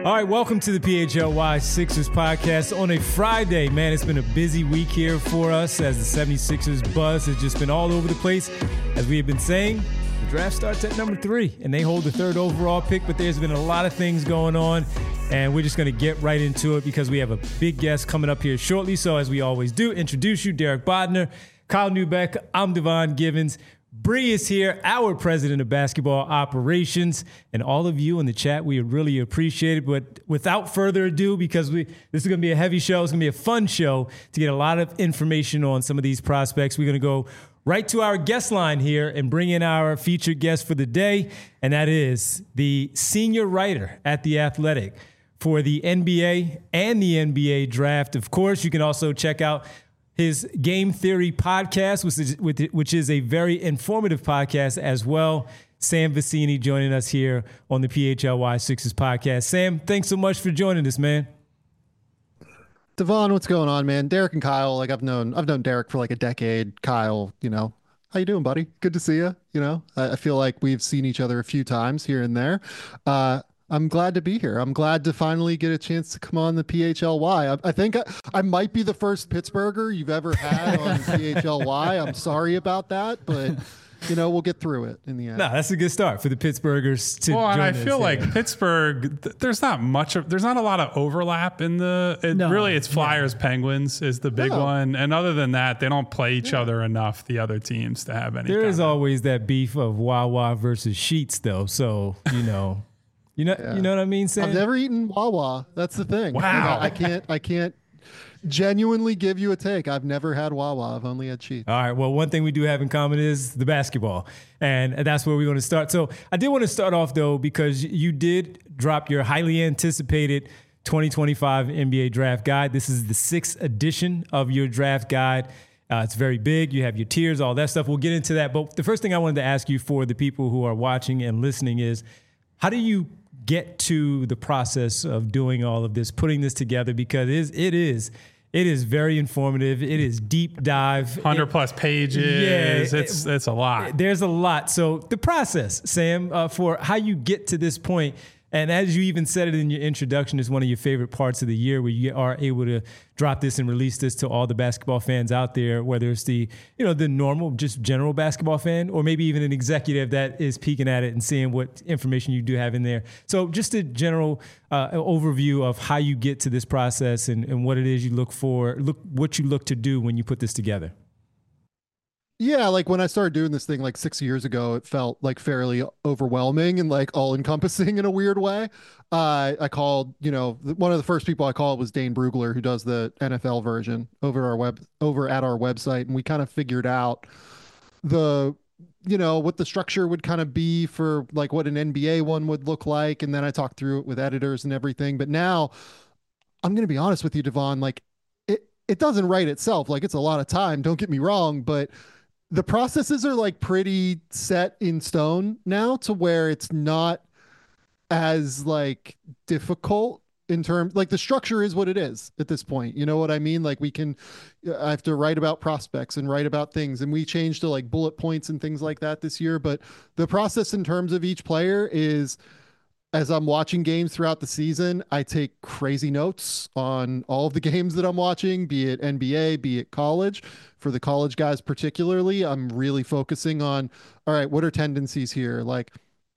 All right, welcome to the PHLY Sixers podcast on a Friday. Man, it's been a busy week here for us as the 76ers buzz has just been all over the place. As we have been saying, the draft starts at number 3, and they hold the 3rd overall pick, but there's been a lot of things going on, and we're just going to get right into it because we have a big guest coming up here shortly. So as we always do, introduce you, Derek Bodner, Kyle Neubeck, I'm Devon Givens. Bree is here, our president of basketball operations, and all of you in the chat, we really appreciate it. But without further ado, because this is going to be a heavy show, it's going to be a fun show to get a lot of information on some of these prospects. We're going to go right to our guest line here and bring in our featured guest for the day, and that is the senior writer at The Athletic for the NBA and the NBA draft. Of course, you can also check out his Game Theory podcast, which is a very informative podcast as well. Sam Vecenie joining us here on the PHLY Sixers podcast. Sam, thanks so much for joining us, man. Devon, what's going on, man? Derek and Kyle, like I've known Derek for like a decade. Kyle, how you doing, buddy? Good to see you. I feel like we've seen each other a few times here and there. I'm glad to be here. I'm glad to finally get a chance to come on the PHLY. I think I might be the first Pittsburgher you've ever had on PHLY. I'm sorry about that, but we'll get through it in the end. No, that's a good start for the Pittsburghers to join and I us feel here. like Pittsburgh, there's not a lot of overlap in it's Flyers Penguins is the big one. And other than that, they don't play each other enough, the other teams, to have any. There is always that beef of Wawa versus Sheets, though. So, You know what I mean, Sam? I've never eaten Wawa. That's the thing. Wow. I can't genuinely give you a take. I've never had Wawa. I've only had Sheets. All right. Well, one thing we do have in common is the basketball, and that's where we're going to start. So I did want to start off, though, because you did drop your highly anticipated 2025 NBA draft guide. This is the 6th edition of your draft guide. It's very big. You have your tiers, all that stuff. We'll get into that. But the first thing I wanted to ask you for the people who are watching and listening is, how do you get to the process of doing all of this, putting this together? Because it is very informative. It is deep dive. 100+ pages. Yeah, it's a lot. There's a lot. So the process, Sam, for how you get to this point, and as you even said it in your introduction, is one of your favorite parts of the year where you are able to drop this and release this to all the basketball fans out there, whether it's the normal, just general basketball fan, or maybe even an executive that is peeking at it and seeing what information you do have in there. So just a general overview of how you get to this process and what it is you look for, what you look to do when you put this together. Yeah, like when I started doing this thing like 6 years ago, it felt like fairly overwhelming and like all encompassing in a weird way. I called, one of the first people I called was Dane Brugler, who does the NFL version over at our website. And we kind of figured out what the structure would kind of be for like what an NBA one would look like. And then I talked through it with editors and everything. But now I'm going to be honest with you, Devon, like it doesn't write itself. Like it's a lot of time. Don't get me wrong, but the processes are like pretty set in stone now to where it's not as like difficult in terms, like the structure is what it is at this point. You know what I mean? Like I have to write about prospects and write about things, and we changed to like bullet points and things like that this year. But the process in terms of each player is, as I'm watching games throughout the season, I take crazy notes on all of the games that I'm watching, be it NBA, be it college. For the college guys particularly, I'm really focusing on, all right, what are tendencies here? Like,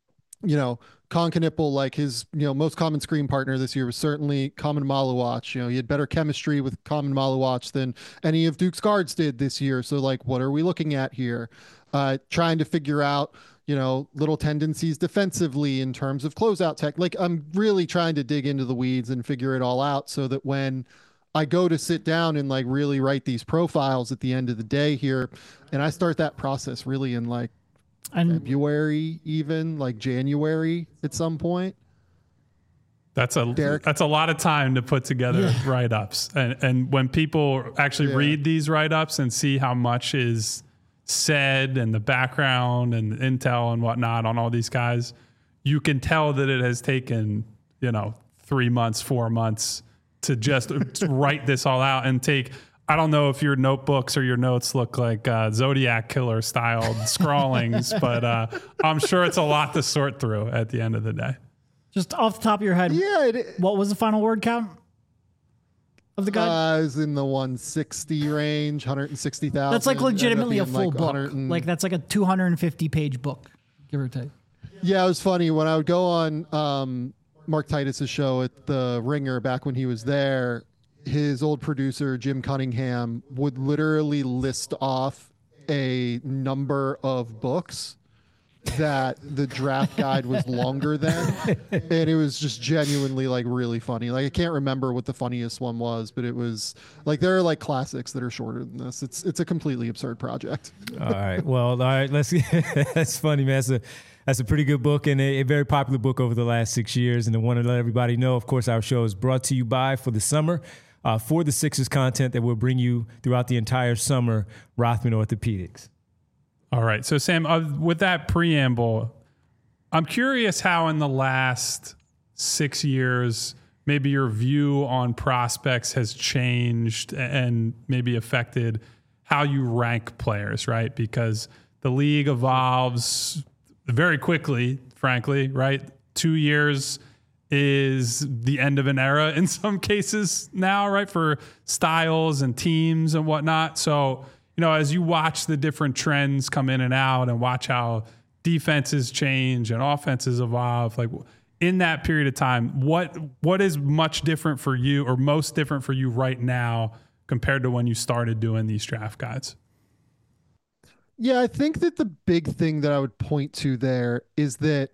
Con Knippel, like his, most common screen partner this year was certainly Common Maluach. He had better chemistry with Common Maluach than any of Duke's guards did this year. So like, what are we looking at here? Trying to figure out, little tendencies defensively in terms of closeout tech. Like I'm really trying to dig into the weeds and figure it all out so that when I go to sit down and like really write these profiles at the end of the day here, and I start that process really in like February, even like January at some point. That's a lot of time to put together write-ups. And when people actually read these write-ups and see how much is said and the background and the intel and whatnot on all these guys, you can tell that it has taken, 3 months, 4 months to just write this all out and take, I don't know if your notebooks or your notes look like Zodiac Killer styled scrawlings, but I'm sure it's a lot to sort through at the end of the day. Just off the top of your head, what was the final word count of the guide? It was in the 160 range, 160,000. That's like legitimately a full book. Like that's like a 250-page book, give or take. Yeah, it was funny when I would go on Mark Titus's show at the Ringer back when he was there. His old producer Jim Cunningham would literally list off a number of books that the draft guide was longer than, and it was just genuinely like really funny. Like I can't remember what the funniest one was, but it was like there are like classics that are shorter than this. It's a completely absurd project. All right, let's. That's funny, man. That's a pretty good book and a very popular book over the last 6 years. And I want to let everybody know, of course, our show is brought to you by for the summer. For the Sixers content that we'll bring you throughout the entire summer, Rothman Orthopedics. All right. So, Sam, with that preamble, I'm curious how in the last 6 years, maybe your view on prospects has changed and maybe affected how you rank players, right? Because the league evolves very quickly, frankly, right? 2 years is the end of an era in some cases now, right? For styles and teams and whatnot. So, as you watch the different trends come in and out and watch how defenses change and offenses evolve, like in that period of time, what is much different for you or most different for you right now compared to when you started doing these draft guides? Yeah, I think that the big thing that I would point to there is that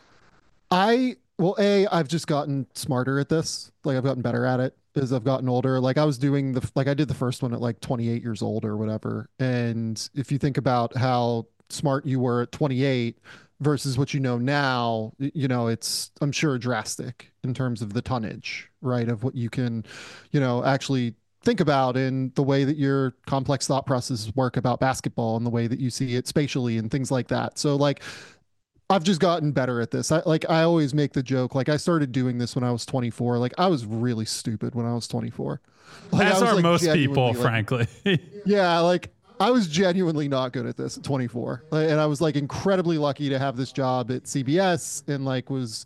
I've just gotten smarter at this. Like I've gotten better at it as I've gotten older. Like I did the first one at like 28 years old or whatever. And if you think about how smart you were at 28 versus what you know now, it's, I'm sure, drastic in terms of the tonnage, right? Of what you can, actually think about in the way that your complex thought processes work about basketball and the way that you see it spatially and things like that. So like, I've just gotten better at this. I always make the joke, like I started doing this when I was 24. Like I was really stupid when I was 24. As are most people, frankly. Yeah. Like I was genuinely not good at this at 24. And I was like incredibly lucky to have this job at CBS and like was,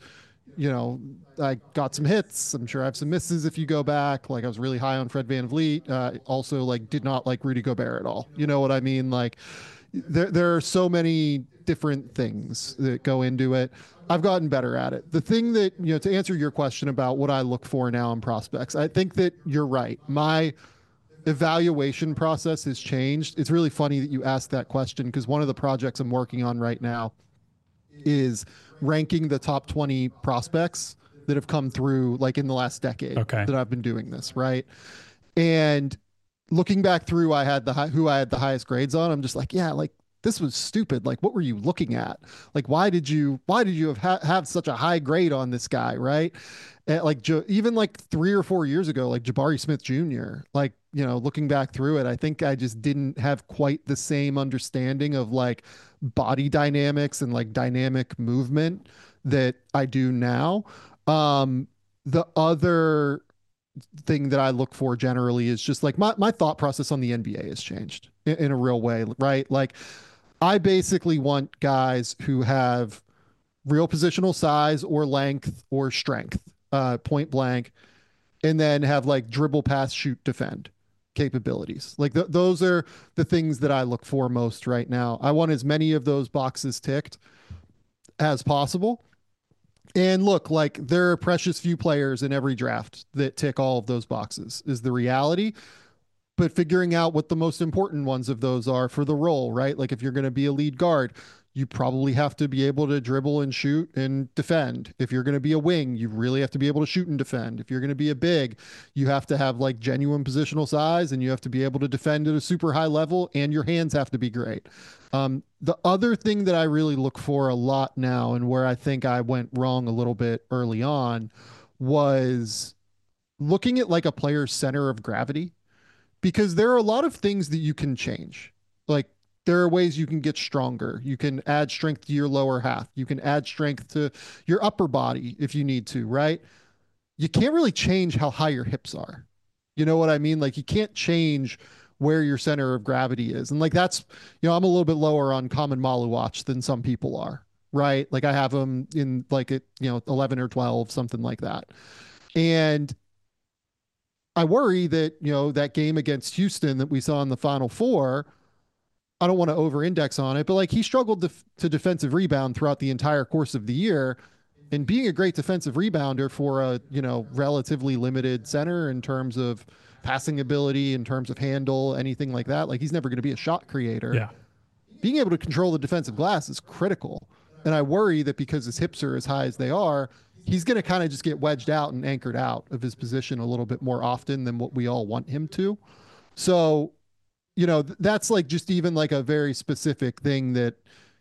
I got some hits. I'm sure I have some misses if you go back. Like I was really high on Fred VanVleet. Also like did not like Rudy Gobert at all. You know what I mean? Like there are so many different things that go into it. I've gotten better at it. The thing that, to answer your question about what I look for now in prospects, I think that you're right. My evaluation process has changed. It's really funny that you asked that question because one of the projects I'm working on right now is ranking the top 20 prospects that have come through like in the last decade that I've been doing this, right? And looking back through, who I had the highest grades on. I'm just like, yeah, like this was stupid. Like, what were you looking at? Like, why did you have such a high grade on this guy, right? And like even like 3 or 4 years ago, like Jabari Smith Jr. Like, looking back through it, I think I just didn't have quite the same understanding of like body dynamics and like dynamic movement that I do now. The other thing that I look for generally is just like my thought process on the NBA has changed in a real way, right? Like I basically want guys who have real positional size or length or strength, point blank, and then have like dribble, pass, shoot, defend capabilities. Like those are the things that I look for most right now. I want as many of those boxes ticked as possible. And look, like there are precious few players in every draft that tick all of those boxes is the reality. But figuring out what the most important ones of those are for the role, right? Like if you're going to be a lead guard, you probably have to be able to dribble and shoot and defend. If you're going to be a wing, you really have to be able to shoot and defend. If you're going to be a big, you have to have like genuine positional size and you have to be able to defend at a super high level and your hands have to be great. The other thing that I really look for a lot now and where I think I went wrong a little bit early on was looking at like a player's center of gravity, because there are a lot of things that you can change. Like there are ways you can get stronger. You can add strength to your lower half. You can add strength to your upper body if you need to, right? You can't really change how high your hips are. You know what I mean? Like you can't change where your center of gravity is. And like, that's, I'm a little bit lower on Common Maluach than some people are. right? Like I have him in like 11 or 12, something like that. And I worry that, that game against Houston that we saw in the Final Four, I don't want to over index on it, but like he struggled to defensive rebound throughout the entire course of the year. And being a great defensive rebounder for a, relatively limited center in terms of passing ability, in terms of handle, anything like that, like he's never going to be a shot creator. Yeah. Being able to control the defensive glass is critical. And I worry that because his hips are as high as they are, he's going to kind of just get wedged out and anchored out of his position a little bit more often than what we all want him to. So, that's like just even like a very specific thing that,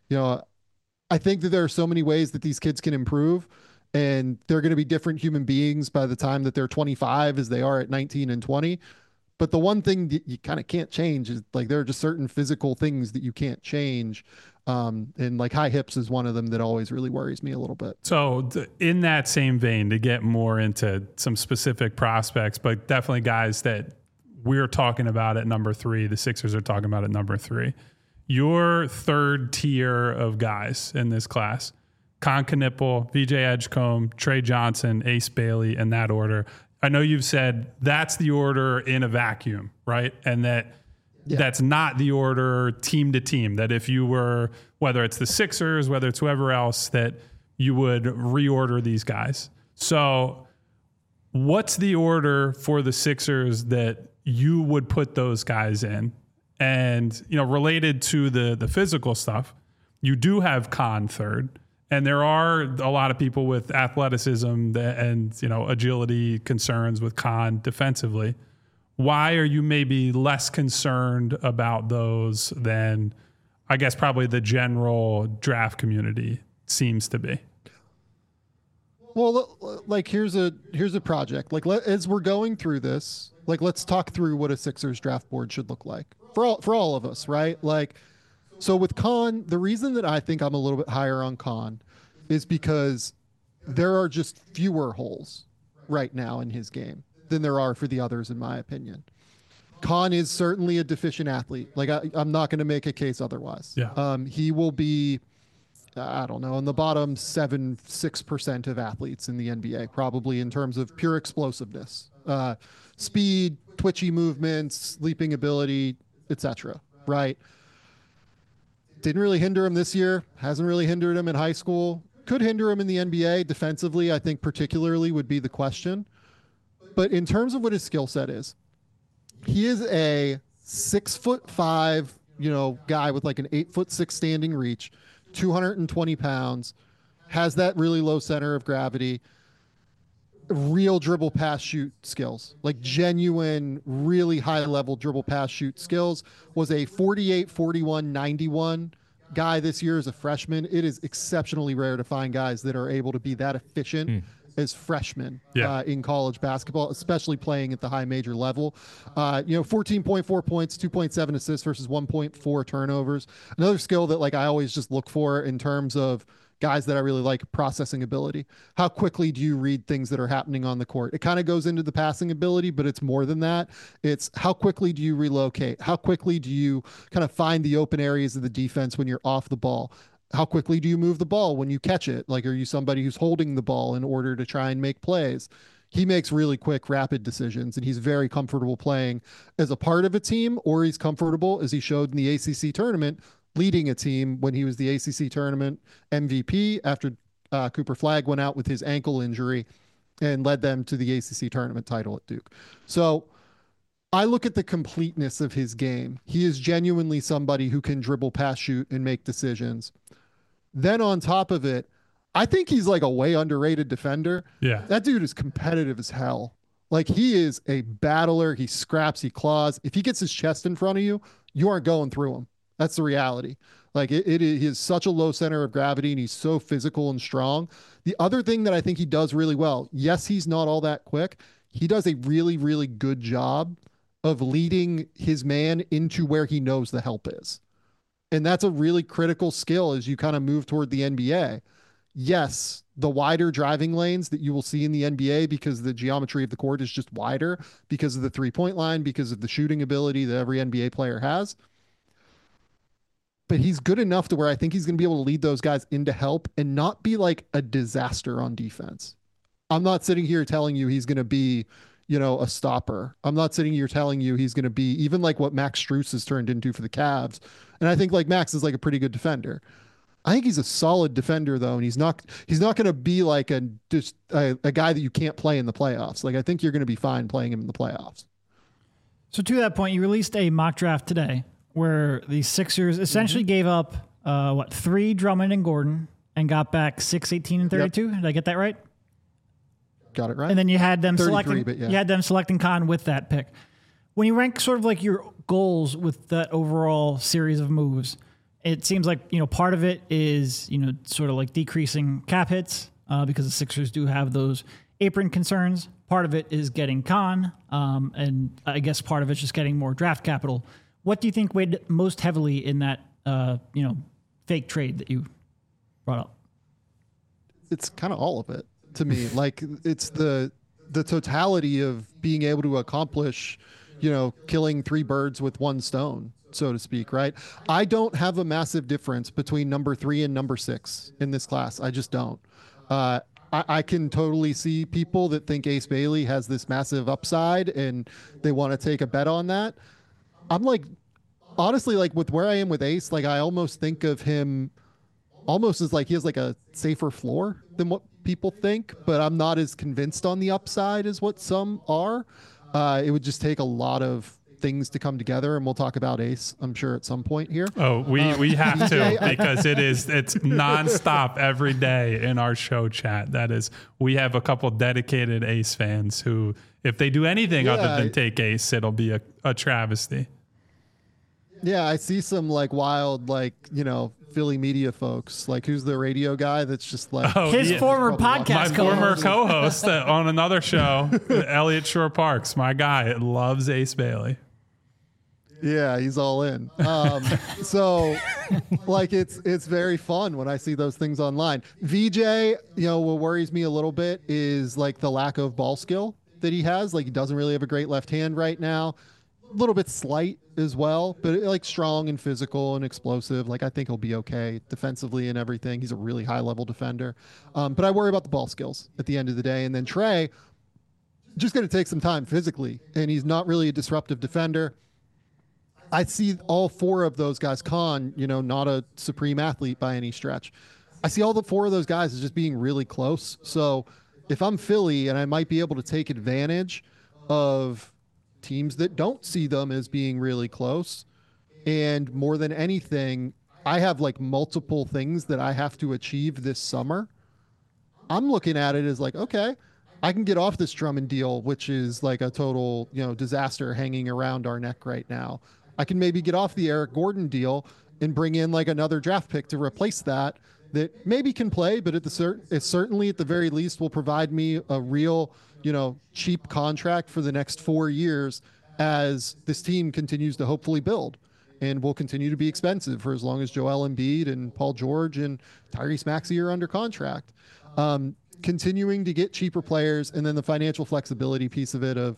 I think that there are so many ways that these kids can improve, and they're going to be different human beings by the time that they're 25 as they are at 19 and 20. But the one thing that you kind of can't change is like there are just certain physical things that you can't change. And like high hips is one of them that always really worries me a little bit. So in that same vein, to get more into some specific prospects, but definitely guys that we're talking about at number 3, the Sixers are talking about at number 3. Your third tier of guys in this class, Kon Knueppel, VJ Edgecombe, Trey Johnson, Ace Bailey, in that order. I know you've said that's the order in a vacuum, right? And that's not the order team to team, that if you were, whether it's the Sixers, whether it's whoever else, that you would reorder these guys. So what's the order for the Sixers that you would put those guys in? And, related to the physical stuff, you do have Kon third. And there are a lot of people with athleticism and, agility concerns with Kon defensively. Why are you maybe less concerned about those than, I guess, probably the general draft community seems to be? Well, like here's a project. Like as we're going through this, like let's talk through what a Sixers draft board should look like for all of us, right? Like, so with Kon, the reason that I think I'm a little bit higher on Kon is because there are just fewer holes right now in his game than there are for the others, in my opinion. Kon is certainly a deficient athlete. Like I'm not going to make a case otherwise. Yeah. He will be, I don't know, in the bottom 6% of athletes in the NBA, probably in terms of pure explosiveness, speed, twitchy movements, leaping ability, etc. Right? Didn't really hinder him this year. Hasn't really hindered him in high school. Could hinder him in the NBA defensively, I think particularly would be the question. But in terms of what his skill set is, he is a 6'5", guy with like an 8'6" standing reach, 220 pounds, has that really low center of gravity, real dribble pass shoot skills, like genuine, really high level dribble pass shoot skills. Was a 48, 41, 91 guy this year as a freshman. It is exceptionally rare to find guys that are able to be that efficient as freshmen in college basketball, especially playing at the high major level. 14.4 points, 2.7 assists versus 1.4 turnovers. Another skill that like I always just look for in terms of guys that I really like, processing ability. How quickly do you read things that are happening on the court? It kind of goes into the passing ability, but it's more than that. It's how quickly do you relocate? How quickly do you kind of find the open areas of the defense when you're off the ball? How quickly do you move the ball when you catch it? Like, are you somebody who's holding the ball in order to try and make plays? He makes really quick, rapid decisions, and he's very comfortable playing as a part of a team, or he's comfortable, as he showed in the ACC tournament, leading a team when he was the ACC tournament MVP after Cooper Flagg went out with his ankle injury and led them to the ACC tournament title at Duke. So I look at the completeness of his game. He is genuinely somebody who can dribble, pass, shoot, and make decisions. Then on top of it, I think he's like a way underrated defender. Yeah. That dude is competitive as hell. Like, he is a battler. He scraps, he claws. If he gets his chest in front of you, you aren't going through him. That's the reality. Like, he is such a low center of gravity, and he's so physical and strong. The other thing that I think he does really well, yes, he's not all that quick. He does a really, really good job of leading his man into where he knows the help is. And that's a really critical skill as you kind of move toward the NBA. Yes, the wider driving lanes that you will see in the NBA, because the geometry of the court is just wider because of the three-point line, because of the shooting ability that every NBA player has. but he's good enough to where I think he's going to be able to lead those guys into help and not be like a disaster on defense. I'm not sitting here telling you he's going to be, a stopper. I'm not sitting here telling you he's going to be even like what Max Strus has turned into for the Cavs. And I think like Max is like a pretty good defender. I think he's a solid defender though. And he's not going to be like a guy that you can't play in the playoffs. Like I think you're going to be fine playing him in the playoffs. So to that point, you released a mock draft today where the Sixers essentially gave up 3 Drummond and Gordon and got back 6, 18, and 32. Yep. Did I get that right? Got it right. And then you had them selecting Khan with that pick. When you rank sort of like your goals with that overall series of moves, it seems like, part of it is, sort of like decreasing cap hits because the Sixers do have those apron concerns. Part of it is getting Khan, and I guess part of it's just getting more draft capital. What do you think weighed most heavily in that, fake trade that you brought up? It's kind of all of it to me. Like it's the totality of being able to accomplish, killing 3 birds with one stone, so to speak, right? I don't have a massive difference between number 3 and number 6 in this class. I just don't. I can totally see people that think Ace Bailey has this massive upside and they want to take a bet on that. I'm like, honestly, like with where I am with Ace, like I almost think of him almost as like he has like a safer floor than what people think, but I'm not as convinced on the upside as what some are. It would just take a lot of things to come together, and we'll talk about Ace, I'm sure, at some point here. Oh, we have to, because it's nonstop every day in our show chat. That is, we have a couple dedicated Ace fans who, if they do anything other than take Ace, it'll be a travesty. Yeah, I see some like wild, like, Philly media folks, like who's the radio guy that's just like his former podcast former co-host on another show, Elliot Shore Parks, my guy, loves Ace Bailey. Yeah, he's all in. So like it's very fun when I see those things online. VJ, what worries me a little bit is like the lack of ball skill that he has. Like he doesn't really have a great left hand right now. A little bit slight as well, but like strong and physical and explosive. Like I think he'll be okay defensively and everything. He's a really high level defender. But I worry about the ball skills at the end of the day. And then Trey, just going to take some time physically, and he's not really a disruptive defender. I see all 4 of those guys, Khan, not a supreme athlete by any stretch. I see all the 4 of those guys as just being really close. So if I'm Philly and I might be able to take advantage of teams that don't see them as being really close, and more than anything, I have like multiple things that I have to achieve this summer. I'm looking at it as like, okay, I can get off this Drummond deal, which is like a total, disaster hanging around our neck right now. I can maybe get off the Eric Gordon deal and bring in like another draft pick to replace that maybe can play, but it certainly at the very least will provide me a real, cheap contract for the next 4 years as this team continues to hopefully build, and will continue to be expensive for as long as Joel Embiid and Paul George and Tyrese Maxey are under contract. Continuing to get cheaper players, and then the financial flexibility piece of it of,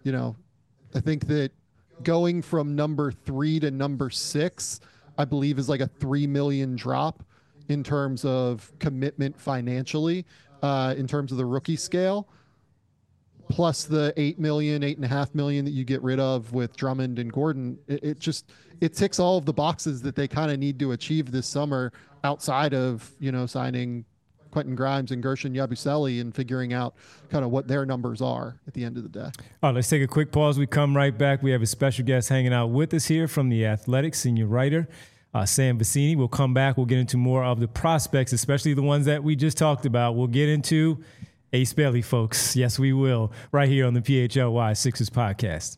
I think that going from number 3 to number 6, I believe is like a $3 million drop in terms of commitment financially, in terms of the rookie scale, plus the $8.5 million that you get rid of with Drummond and Gordon. It ticks all of the boxes that they kind of need to achieve this summer outside of, signing Quentin Grimes and Gershon Yabusele and figuring out kind of what their numbers are at the end of the day. All right, let's take a quick pause. We come right back. We have a special guest hanging out with us here from The Athletic, senior writer, Sam Vecenie. We'll come back. We'll get into more of the prospects, especially the ones that we just talked about. We'll get into Ace Bailey, folks. Yes, we will. Right here on the PHLY Sixers podcast.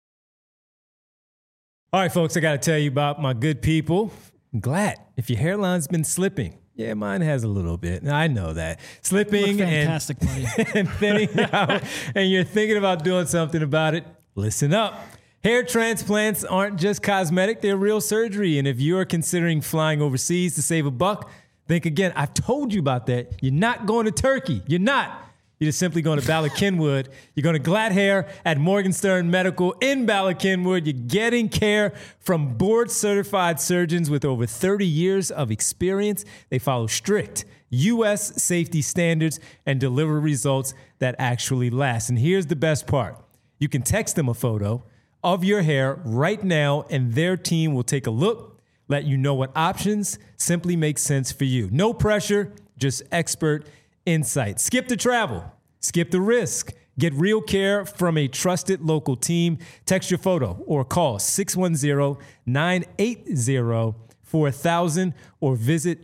All right, folks, I got to tell you about my good people. Glad. If your hairline's been slipping, yeah, mine has a little bit. I know that. Slipping and thinning out, and you're thinking about doing something about it, listen up. Hair transplants aren't just cosmetic, they're real surgery. And if you're considering flying overseas to save a buck, think again. I've told you about that. You're not going to Turkey. You're not. You're just simply going to Bala Cynwyd. You're going to Glatt Hair at Morgan Stern Medical in Bala Cynwyd. You're getting care from board-certified surgeons with over 30 years of experience. They follow strict U.S. safety standards and deliver results that actually last. And here's the best part. You can text them a photo of your hair right now, and their team will take a look, let you know what options simply make sense for you. No pressure, just expert insight. Skip the travel, skip the risk. Get real care from a trusted local team. Text your photo or call 610-980-4000 or visit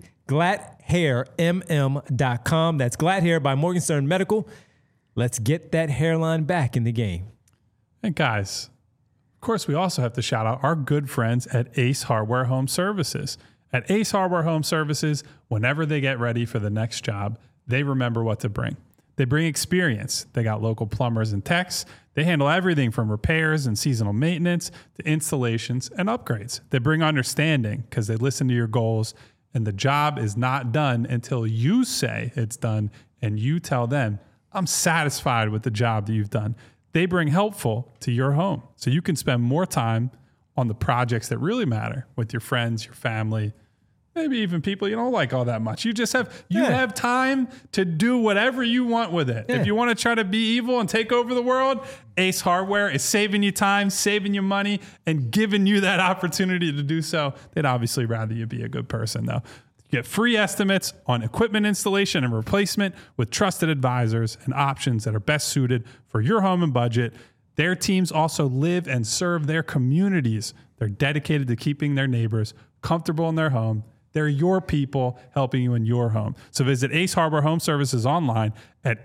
GlattHairMM.com. That's Glatt Hair by Morgan Stern Medical. Let's get that hairline back in the game. And guys, of course, we also have to shout out our good friends at Ace Hardware Home Services. At Ace Hardware Home Services, whenever they get ready for the next job, they remember what to bring. They bring experience. They got local plumbers and techs. They handle everything from repairs and seasonal maintenance to installations and upgrades. They bring understanding because they listen to your goals, and the job is not done until you say it's done and you tell them, I'm satisfied with the job that you've done. They bring helpful to your home so you can spend more time on the projects that really matter with your friends, your family, maybe even people you don't like all that much. You just have time to do whatever you want with it. Yeah. If you want to try to be evil and take over the world, Ace Hardware is saving you time, saving you money, and giving you that opportunity to do so. They'd obviously rather you be a good person, though. You get free estimates on equipment installation and replacement with trusted advisors and options that are best suited for your home and budget. Their teams also live and serve their communities. They're dedicated to keeping their neighbors comfortable in their home. They're your people helping you in your home. So visit Ace Hardware Home Services online at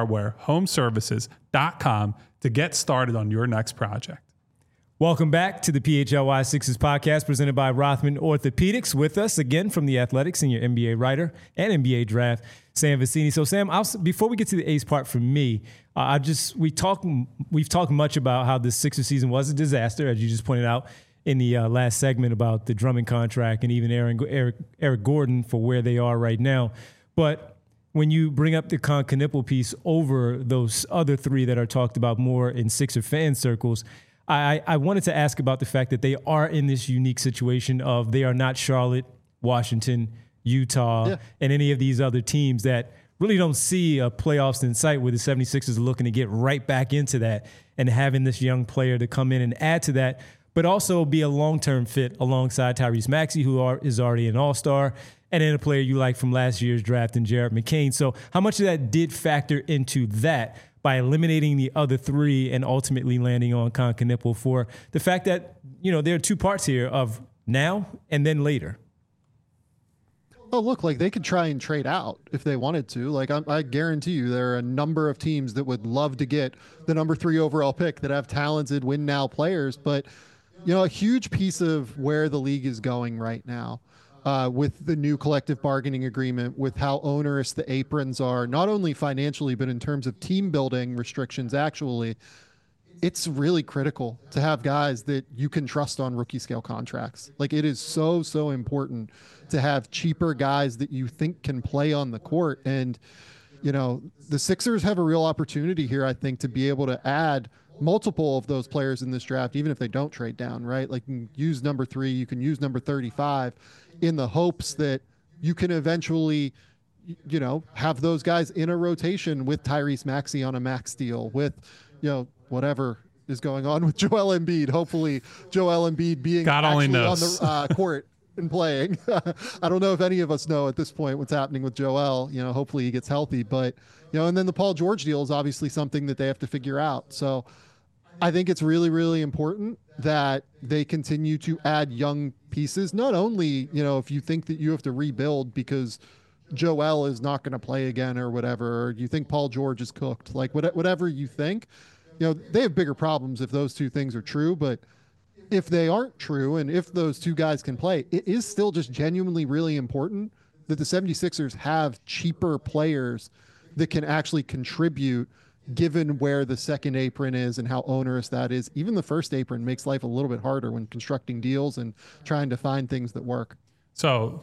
acehardwarehomeservices.com to get started on your next project. Welcome back to the PHLY Sixers podcast presented by Rothman Orthopedics. With us again from The Athletic, senior NBA writer and NBA draft, Sam Vecenie. So Sam, before we get to the Ace part for me, we've talked much about how the Sixers season was a disaster, as you just pointed out in the last segment about the Drummond contract and even Eric Gordon for where they are right now. But when you bring up the Con Knippel piece over those other three that are talked about more in Sixer fan circles, I wanted to ask about the fact that they are in this unique situation of they are not Charlotte, Washington, Utah, and any of these other teams that really don't see a playoffs in sight, where the 76ers are looking to get right back into that and having this young player to come in and add to that, but also be a long-term fit alongside Tyrese Maxey, who is already an all-star, and then a player you like from last year's draft in Jared McCain. So how much of that did factor into that by eliminating the other three and ultimately landing on Con Knippel for the fact that, there are two parts here of now and then later? Oh, look, they could try and trade out if they wanted to. I guarantee you there are a number of teams that would love to get the number 3 overall pick that have talented win now players. But, a huge piece of where the league is going right now, with the new collective bargaining agreement, with how onerous the aprons are, not only financially, but in terms of team building restrictions, actually, it's really critical to have guys that you can trust on rookie scale contracts. It is so, so important to have cheaper guys that you think can play on the court. And, the Sixers have a real opportunity here, I think, to be able to add multiple of those players in this draft, even if they don't trade down, right? You can use number 3, you can use number 35 in the hopes that you can eventually, have those guys in a rotation with Tyrese Maxey on a max deal, with, whatever is going on with Joel Embiid. Hopefully Joel Embiid being God only knows on the court and playing. I don't know if any of us know at this point what's happening with Joel. Hopefully he gets healthy, but, and then the Paul George deal is obviously something that they have to figure out. So I think it's really, really important that they continue to add young pieces. Not only, if you think that you have to rebuild because Joel is not going to play again or whatever, or you think Paul George is cooked, whatever you think, they have bigger problems if those two things are true. But if they aren't true, and if those two guys can play, it is still just genuinely really important that the 76ers have cheaper players that can actually contribute, given where the second apron is and how onerous that is. Even the first apron makes life a little bit harder when constructing deals and trying to find things that work. So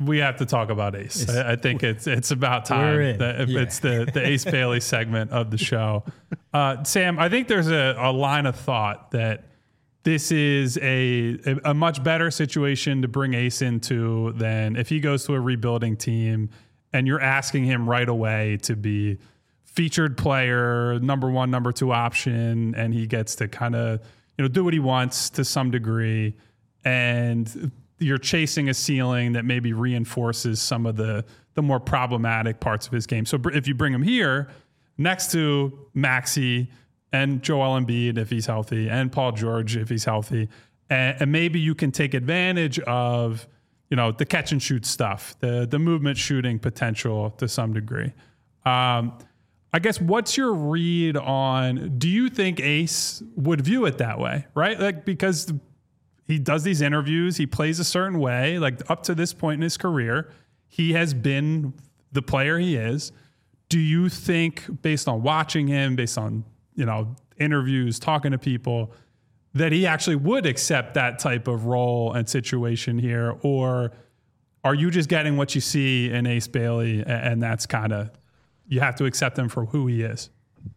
we have to talk about Ace. I think it's about time. It's the Ace Bailey segment of the show. Sam, I think there's a line of thought that this is a much better situation to bring Ace into than if he goes to a rebuilding team and you're asking him right away to be featured player, number one, number two option, and he gets to kind of, do what he wants to some degree. And you're chasing a ceiling that maybe reinforces some of the more problematic parts of his game. So if you bring him here next to Maxey and Joel Embiid, if he's healthy, and Paul George, if he's healthy, and maybe you can take advantage of, the catch and shoot stuff, the movement shooting potential to some degree. I guess what's your read on, do you think Ace would view it that way, right? Like, because he does these interviews, he plays a certain way, like up to this point in his career, he has been the player he is. Do you think, based on watching him, based on, interviews, talking to people, that he actually would accept that type of role and situation here? Or are you just getting what you see in Ace Bailey and that's kind of, you have to accept him for who he is?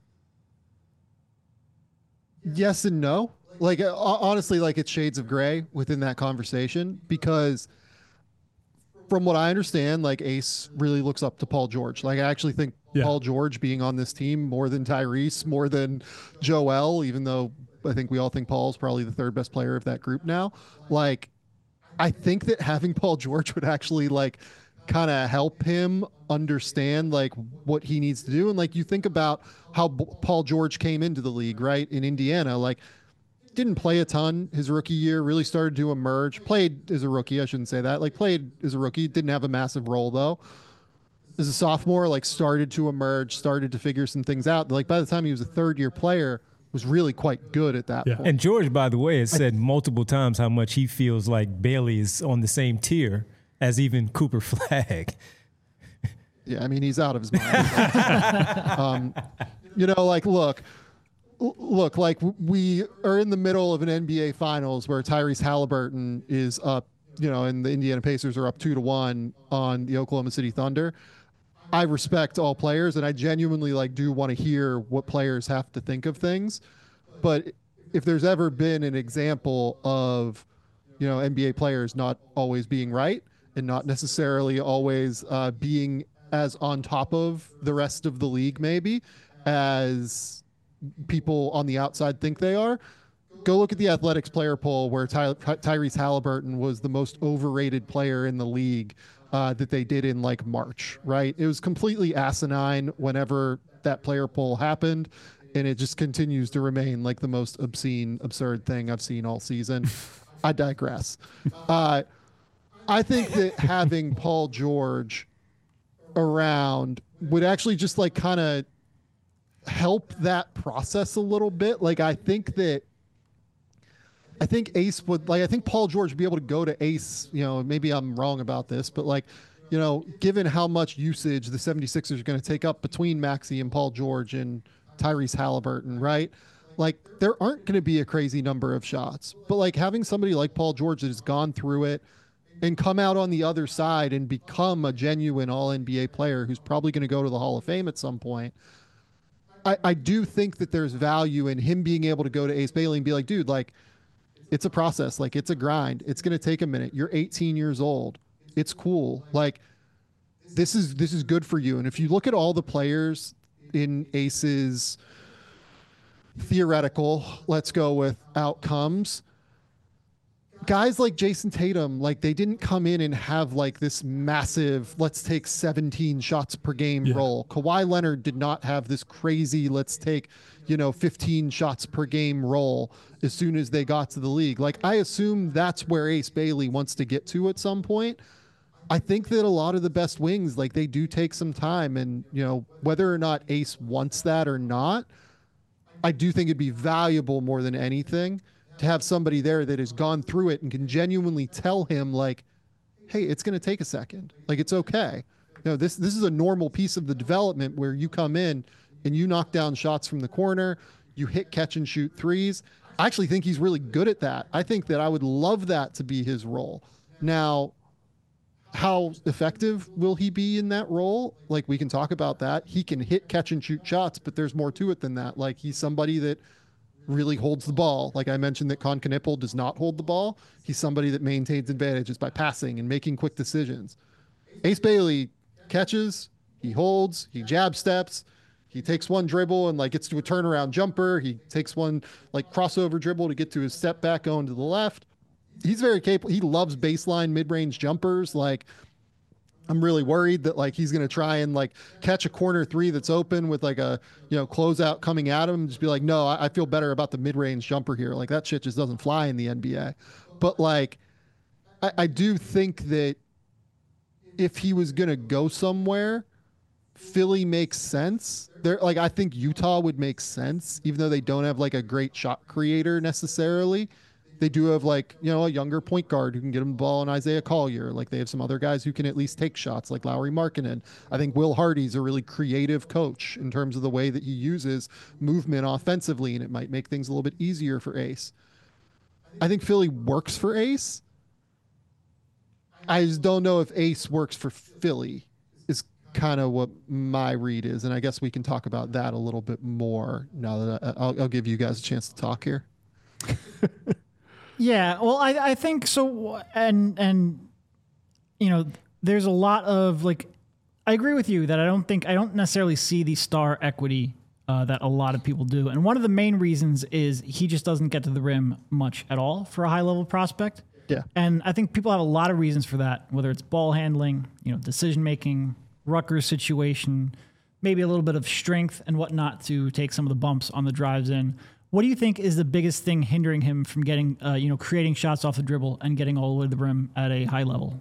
Yes and no. Like, honestly, like, it's shades of gray within that conversation, because from what I understand, like, Ace really looks up to Paul George. Like, I actually think Paul George being on this team more than Tyrese, more than Joel, even though I think we all think Paul's probably the third best player of that group now. Like, I think that having Paul George would actually, like, kind of help him understand, like, what he needs to do. And, like, you think about how Paul George came into the league, right, in Indiana, like, didn't play a ton his rookie year, really started to emerge, played as a rookie, I shouldn't say that, like, played as a rookie, didn't have a massive role though. As a sophomore, like, started to emerge, started to figure some things out. Like, by the time he was a third-year player, was really quite good at that point. And George, by the way, has said multiple times how much he feels like Bailey is on the same tier as even Cooper Flagg. Yeah, I mean, he's out of his mind. Like, look, like, we are in the middle of an NBA Finals where Tyrese Halliburton is up, and the Indiana Pacers are up 2-1 on the Oklahoma City Thunder. I respect all players, and I genuinely, like, do want to hear what players have to think of things. But if there's ever been an example of, NBA players not always being right and not necessarily always being as on top of the rest of the league, maybe, as people on the outside think they are, go look at the Athletics player poll where Tyrese Halliburton was the most overrated player in the league that they did in, like, March, right? It was completely asinine whenever that player poll happened, and it just continues to remain, like, the most obscene, absurd thing I've seen all season. I digress. I think that having Paul George around would actually just, like, kind of help that process a little bit. Like, I think Ace would, like, I think Paul George would be able to go to Ace, maybe I'm wrong about this, but, like, given how much usage the 76ers are going to take up between Maxey and Paul George and Tyrese Halliburton, right? Like, there aren't going to be a crazy number of shots, but, like, having somebody like Paul George that has gone through it and come out on the other side and become a genuine all-NBA player who's probably going to go to the Hall of Fame at some point, I do think that there's value in him being able to go to Ace Bailey and be like, dude, like, it's a process. Like, it's a grind. It's going to take a minute. You're 18 years old. It's cool. Like, this is good for you. And if you look at all the players in Ace's theoretical, let's go with outcomes, guys like Jason Tatum, like, they didn't come in and have, like, this massive, let's take 17 shots per game role. Kawhi Leonard did not have this crazy, let's take, 15 shots per game role as soon as they got to the league. Like, I assume that's where Ace Bailey wants to get to at some point. I think that a lot of the best wings, like, they do take some time, and, whether or not Ace wants that or not, I do think it'd be valuable more than anything to have somebody there that has gone through it and can genuinely tell him, like, hey, it's going to take a second. Like, it's okay. This is a normal piece of the development where you come in and you knock down shots from the corner, you hit catch and shoot threes. I actually think he's really good at that. I think that I would love that to be his role. Now, how effective will he be in that role? Like, we can talk about that. He can hit, catch, and shoot shots, but there's more to it than that. Like, he's somebody that really holds the ball. Like I mentioned that Con Knipple does not hold the ball. He's somebody that maintains advantages by passing and making quick decisions. Ace Bailey catches, he holds, he jab steps, he takes one dribble and like gets to a turnaround jumper. He takes one like crossover dribble to get to his step back going to the left. He's very capable. He loves baseline mid-range jumpers. Like, I'm really worried that like he's going to try and like catch a corner three that's open with like a, you know, closeout coming at him and just be like, no, I feel better about the mid-range jumper here. Like, that shit just doesn't fly in the NBA. But like, I do think that if he was going to go somewhere, Philly makes sense. There, like, I think Utah would make sense, even though they don't have like a great shot creator necessarily. They do have like, you know, a younger point guard who can get him the ball, and Isaiah Collier. Like, they have some other guys who can at least take shots, like Lauri Markkanen. I think Will Hardy's a really creative coach in terms of the way that he uses movement offensively, and it might make things a little bit easier for Ace. I think Philly works for Ace. I just don't know if Ace works for Philly, is kind of what my read is. And I guess we can talk about that a little bit more now that I'll give you guys a chance to talk here. Yeah, well, I think so. And, you know, there's a lot of like, I agree with you that I don't necessarily see the star equity that a lot of people do. And one of the main reasons is he just doesn't get to the rim much at all for a high level prospect. Yeah. And I think people have a lot of reasons for that, whether it's ball handling, you know, decision making, Rutgers situation, maybe a little bit of strength and whatnot to take some of the bumps on the drives in. What do you think is the biggest thing hindering him from getting, creating shots off the dribble and getting all the way to the rim at a high level?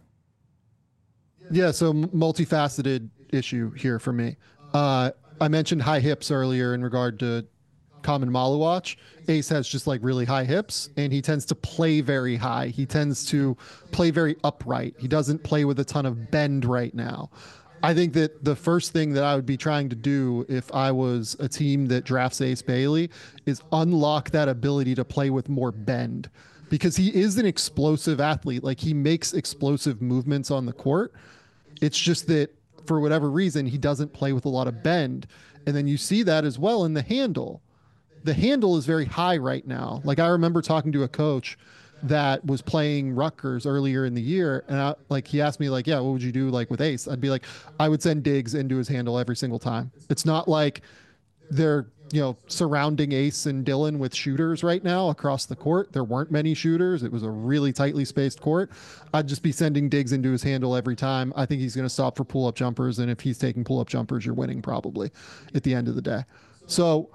Yeah, so multifaceted issue here for me. I mentioned high hips earlier in regard to Common Maluach. Ace has just like really high hips, and he tends to play very high. He tends to play very upright. He doesn't play with a ton of bend right now. I think that the first thing that I would be trying to do if I was a team that drafts Ace Bailey is unlock that ability to play with more bend, because he is an explosive athlete. Like, he makes explosive movements on the court. It's just that for whatever reason, he doesn't play with a lot of bend. And then you see that as well in the handle. The handle is very high right now. Like, I remember talking to a coach that was playing Rutgers earlier in the year, and he asked me like, yeah, what would you do like with Ace? I'd be like, I would send Diggs into his handle every single time. It's not like they're, you know, surrounding Ace and Dillon with shooters right now across the court. There weren't many shooters. It was a really tightly spaced court. I'd just be sending Diggs into his handle every time. I think he's going to stop for pull-up jumpers, and if he's taking pull-up jumpers, you're winning probably at the end of the day. So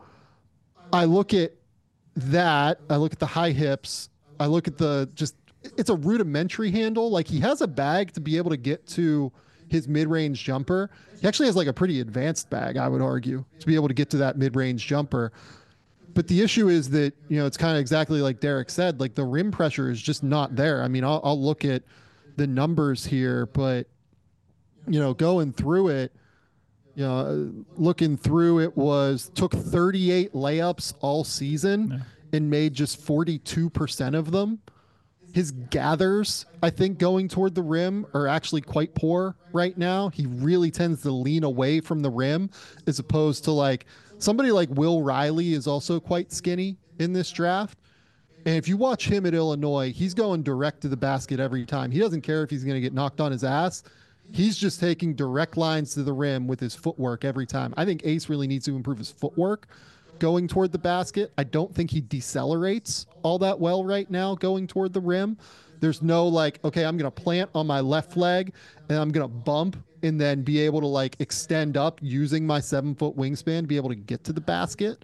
I look at that. I look at the high hips. I look at it's a rudimentary handle. Like, he has a bag to be able to get to his mid-range jumper. He actually has like a pretty advanced bag, I would argue, to be able to get to that mid-range jumper. But the issue is that, you know, it's kind of exactly like Derek said, like the rim pressure is just not there. I mean, I'll look at the numbers here, but, you know, going through it, you know, looking through it took 38 layups all season. Yeah. And made just 42% of them. His gathers, I think, going toward the rim are actually quite poor right now. He really tends to lean away from the rim, as opposed to like somebody like Will Riley is also quite skinny in this draft. And if you watch him at Illinois, he's going direct to the basket every time. He doesn't care if he's going to get knocked on his ass. He's just taking direct lines to the rim with his footwork every time. I think Ace really needs to improve his footwork going toward the basket. I don't think he decelerates all that well right now going toward the rim. There's no like, okay, I'm going to plant on my left leg and I'm going to bump and then be able to like extend up using my 7-foot wingspan to be able to get to the basket.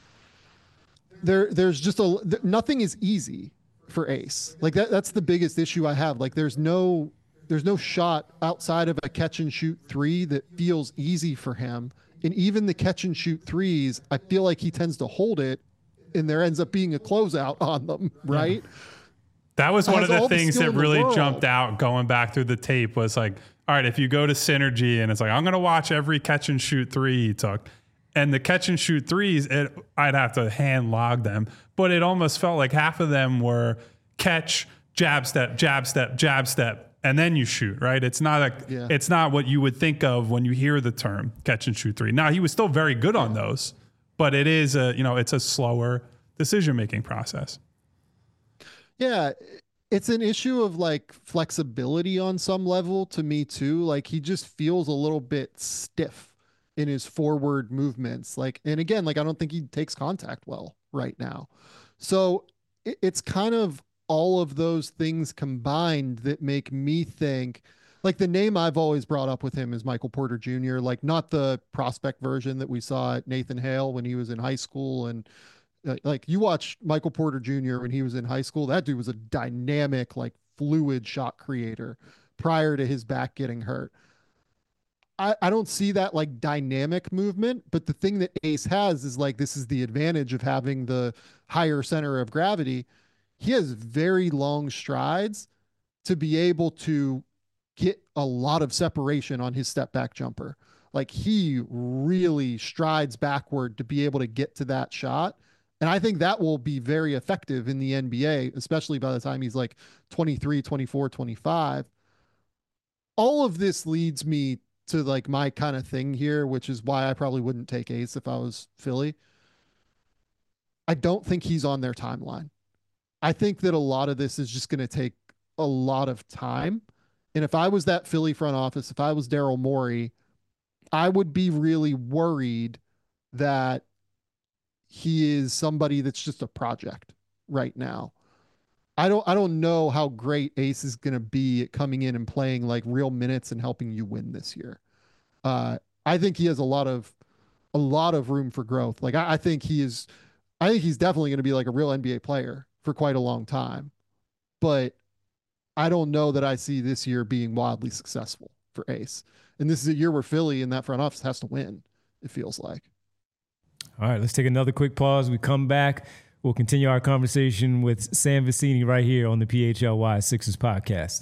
There's just nothing is easy for Ace. Like that's the biggest issue I have. Like there's no shot outside of a catch and shoot three that feels easy for him. And even the catch and shoot threes, I feel like he tends to hold it and there ends up being a closeout on them, right? Yeah. That was one of the things that really jumped out going back through the tape was like, all right, if you go to Synergy and it's like, I'm going to watch every catch and shoot three he took. And the catch and shoot threes, I'd have to hand log them. But it almost felt like half of them were catch, jab step, jab step, jab step. and then you shoot, right? It's not it's not what you would think of when you hear the term catch and shoot three. Now, he was still very good on those, but it is it's a slower decision-making process. Yeah. It's an issue of like flexibility on some level to me too. Like he just feels a little bit stiff in his forward movements. Like, and again, like I don't think he takes contact well right now. So it's kind of all of those things combined that make me think, like, the name I've always brought up with him is Michael Porter Jr., like not the prospect version that we saw at Nathan Hale when he was in high school. And like you watch Michael Porter Jr. when he was in high school, that dude was a dynamic, like fluid shot creator prior to his back getting hurt. I don't see that like dynamic movement, but the thing that Ace has is like, this is the advantage of having the higher center of gravity. He has very long strides to be able to get a lot of separation on his step back jumper. Like he really strides backward to be able to get to that shot. And I think that will be very effective in the NBA, especially by the time he's like 23, 24, 25. All of this leads me to like my kind of thing here, which is why I probably wouldn't take Ace if I was Philly. I don't think he's on their timeline. I think that a lot of this is just going to take a lot of time. And if I was that Philly front office, if I was Daryl Morey, I would be really worried that he is somebody that's just a project right now. I don't know how great Ace is going to be at coming in and playing like real minutes and helping you win this year. I think he has a lot of room for growth. Like I think he's definitely going to be like a real NBA player for quite a long time, but I don't know that I see this year being wildly successful for Ace. And this is a year where Philly in that front office has to win, it feels like. All right, let's take another quick pause. We come back. We'll continue our conversation with Sam Vecenie right here on the PHLY Sixers podcast.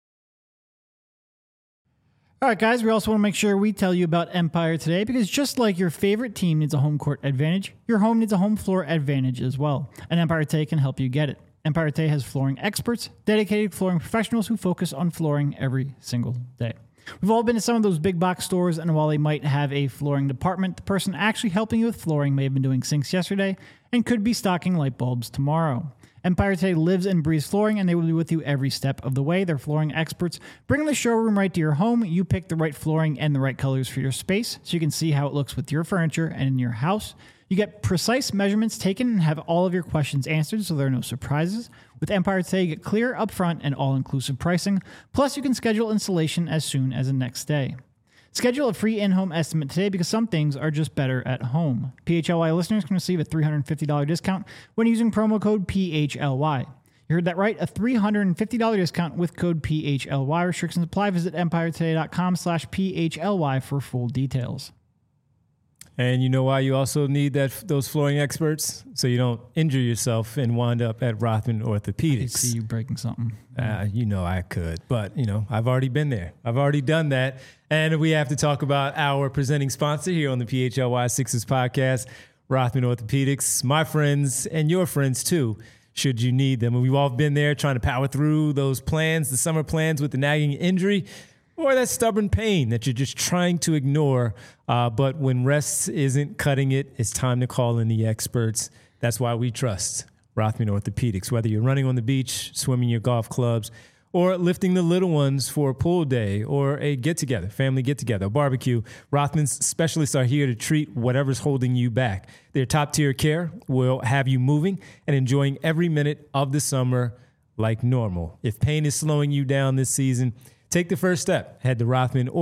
All right, guys, we also want to make sure we tell you about Empire today, because just like your favorite team needs a home court advantage, your home needs a home floor advantage as well. And Empire Today can help you get it. Empire Today has flooring experts, dedicated flooring professionals who focus on flooring every single day. We've all been to some of those big box stores, and while they might have a flooring department, the person actually helping you with flooring may have been doing sinks yesterday and could be stocking light bulbs tomorrow. Empire Today lives and breathes flooring, and they will be with you every step of the way. They're flooring experts. Bring the showroom right to your home. You pick the right flooring and the right colors for your space so you can see how it looks with your furniture and in your house. You get precise measurements taken and have all of your questions answered, so there are no surprises. With Empire Today, you get clear, upfront, and all-inclusive pricing. Plus, you can schedule installation as soon as the next day. Schedule a free in-home estimate today, because some things are just better at home. PHLY listeners can receive a $350 discount when using promo code PHLY. You heard that right, a $350 discount with code PHLY. Restrictions apply. Visit empiretoday.com/PHLY for full details. And you know why you also need those flooring experts? So you don't injure yourself and wind up at Rothman Orthopedics. I see you breaking something. You know I could, but I've already been there. I've already done that. And we have to talk about our presenting sponsor here on the PHLY Sixers podcast, Rothman Orthopedics. My friends and your friends too, should you need them. And we've all been there trying to power through those plans, the summer plans with the nagging injury, or that stubborn pain that you're just trying to ignore. But when rest isn't cutting it, it's time to call in the experts. That's why we trust Rothman Orthopedics. Whether you're running on the beach, swimming your golf clubs, or lifting the little ones for a pool day or a get-together, family get-together, a barbecue, Rothman's specialists are here to treat whatever's holding you back. Their top-tier care will have you moving and enjoying every minute of the summer like normal. If pain is slowing you down this season, take the first step. Head to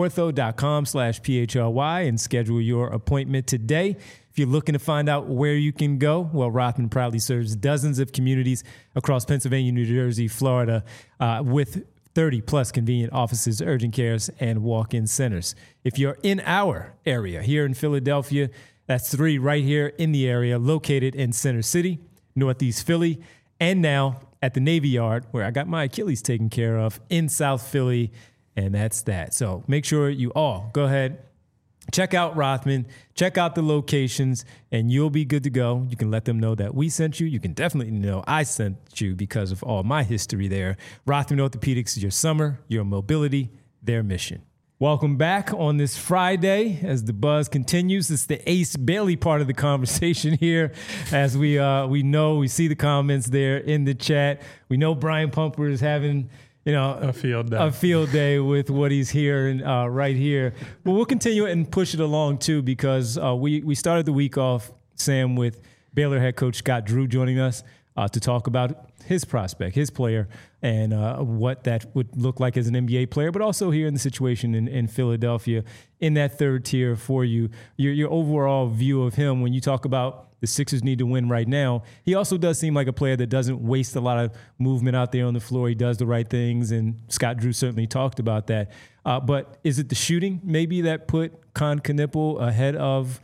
rothmanortho.com/PHLY and schedule your appointment today. If you're looking to find out where you can go, well, Rothman proudly serves dozens of communities across Pennsylvania, New Jersey, Florida, with 30-plus convenient offices, urgent cares, and walk-in centers. If you're in our area here in Philadelphia, that's 3 right here in the area, located in Center City, Northeast Philly, and now at the Navy Yard, where I got my Achilles taken care of in South Philly, and that's that. So make sure you all go ahead, check out Rothman, check out the locations, and you'll be good to go. You can let them know that we sent you. You can definitely know I sent you because of all my history there. Rothman Orthopedics is your summer, your mobility, their mission. Welcome back on this Friday as the buzz continues. It's the Ace Bailey part of the conversation here. As we see the comments there in the chat. We know Brian Pumper is having a field day with what he's hearing right here. But we'll continue it and push it along too, because we started the week off, Sam, with Baylor head coach Scott Drew joining us to talk about his prospect, his player, and what that would look like as an NBA player, but also here in the situation in Philadelphia in that third tier for you. Your overall view of him when you talk about the Sixers need to win right now. He also does seem like a player that doesn't waste a lot of movement out there on the floor. He does the right things, and Scott Drew certainly talked about that. But is it the shooting maybe that put Kon Knueppel ahead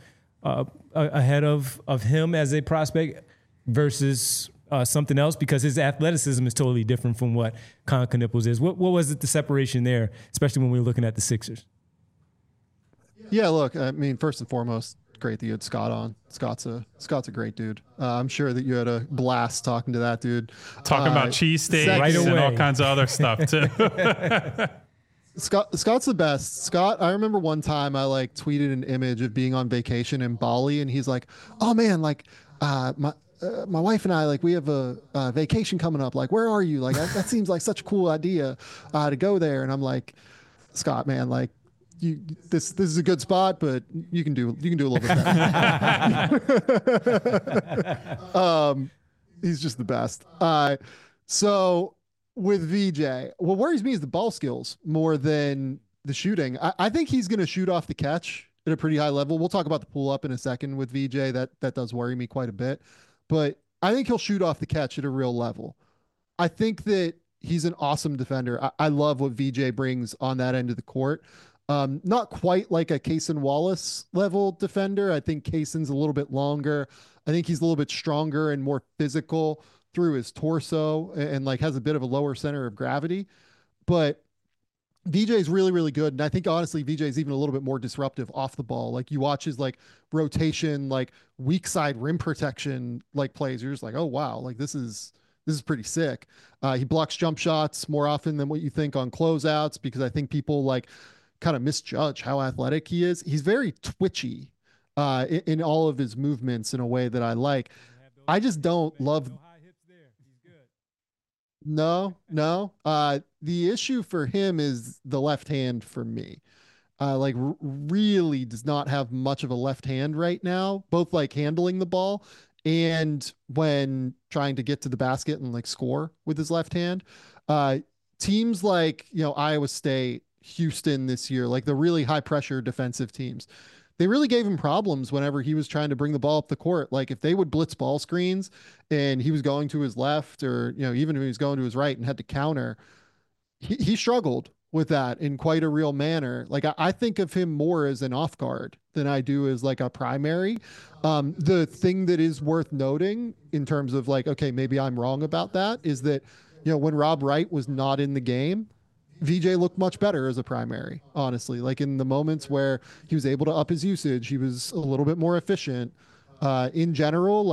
of him as a prospect versus something else? Because his athleticism is totally different from what Kon Knueppel's is. What was it, the separation there, especially when we were looking at the Sixers? Yeah, look, I mean, first and foremost, great that you had Scott on. Scott's a great dude. I'm sure that you had a blast talking to that dude. Talking about cheesesteaks right and all kinds of other stuff too. Scott's the best. Scott, I remember one time I tweeted an image of being on vacation in Bali, and he's like, "Oh man, my wife and I, we have a vacation coming up. Where are you? That seems like such a cool idea to go there." And I'm like, "Scott, man, this is a good spot, but you can do a little bit better." He's just the best. So with VJ, what worries me is the ball skills more than the shooting. I think he's going to shoot off the catch at a pretty high level. We'll talk about the pull up in a second with VJ. That does worry me quite a bit, but I think he'll shoot off the catch at a real level. I think that he's an awesome defender. I love what VJ brings on that end of the court. Not quite like a Cason Wallace level defender. I think Cason's a little bit longer. I think he's a little bit stronger and more physical through his torso and has a bit of a lower center of gravity. But VJ is really, really good. And I think honestly, VJ is even a little bit more disruptive off the ball. You watch his rotation, weak side rim protection, plays. You're just oh wow, this is pretty sick. He blocks jump shots more often than what you think on closeouts, because I think people kind of misjudge how athletic he is. He's very twitchy in all of his movements in a way that I like. I just don't love. No. The issue for him is the left hand for me. Really does not have much of a left hand right now, both handling the ball and when trying to get to the basket and score with his left hand. Teams Iowa State, Houston this year, the really high pressure defensive teams, they really gave him problems whenever he was trying to bring the ball up the court. If they would blitz ball screens and he was going to his left, or even if he was going to his right and had to counter, he struggled with that in quite a real manner. I think of him more as an off guard than I do as a primary. The thing that is worth noting in terms of okay, maybe I'm wrong about that, is that when Rob Wright was not in the game, VJ looked much better as a primary, honestly. In the moments where he was able to up his usage, he was a little bit more efficient. In general,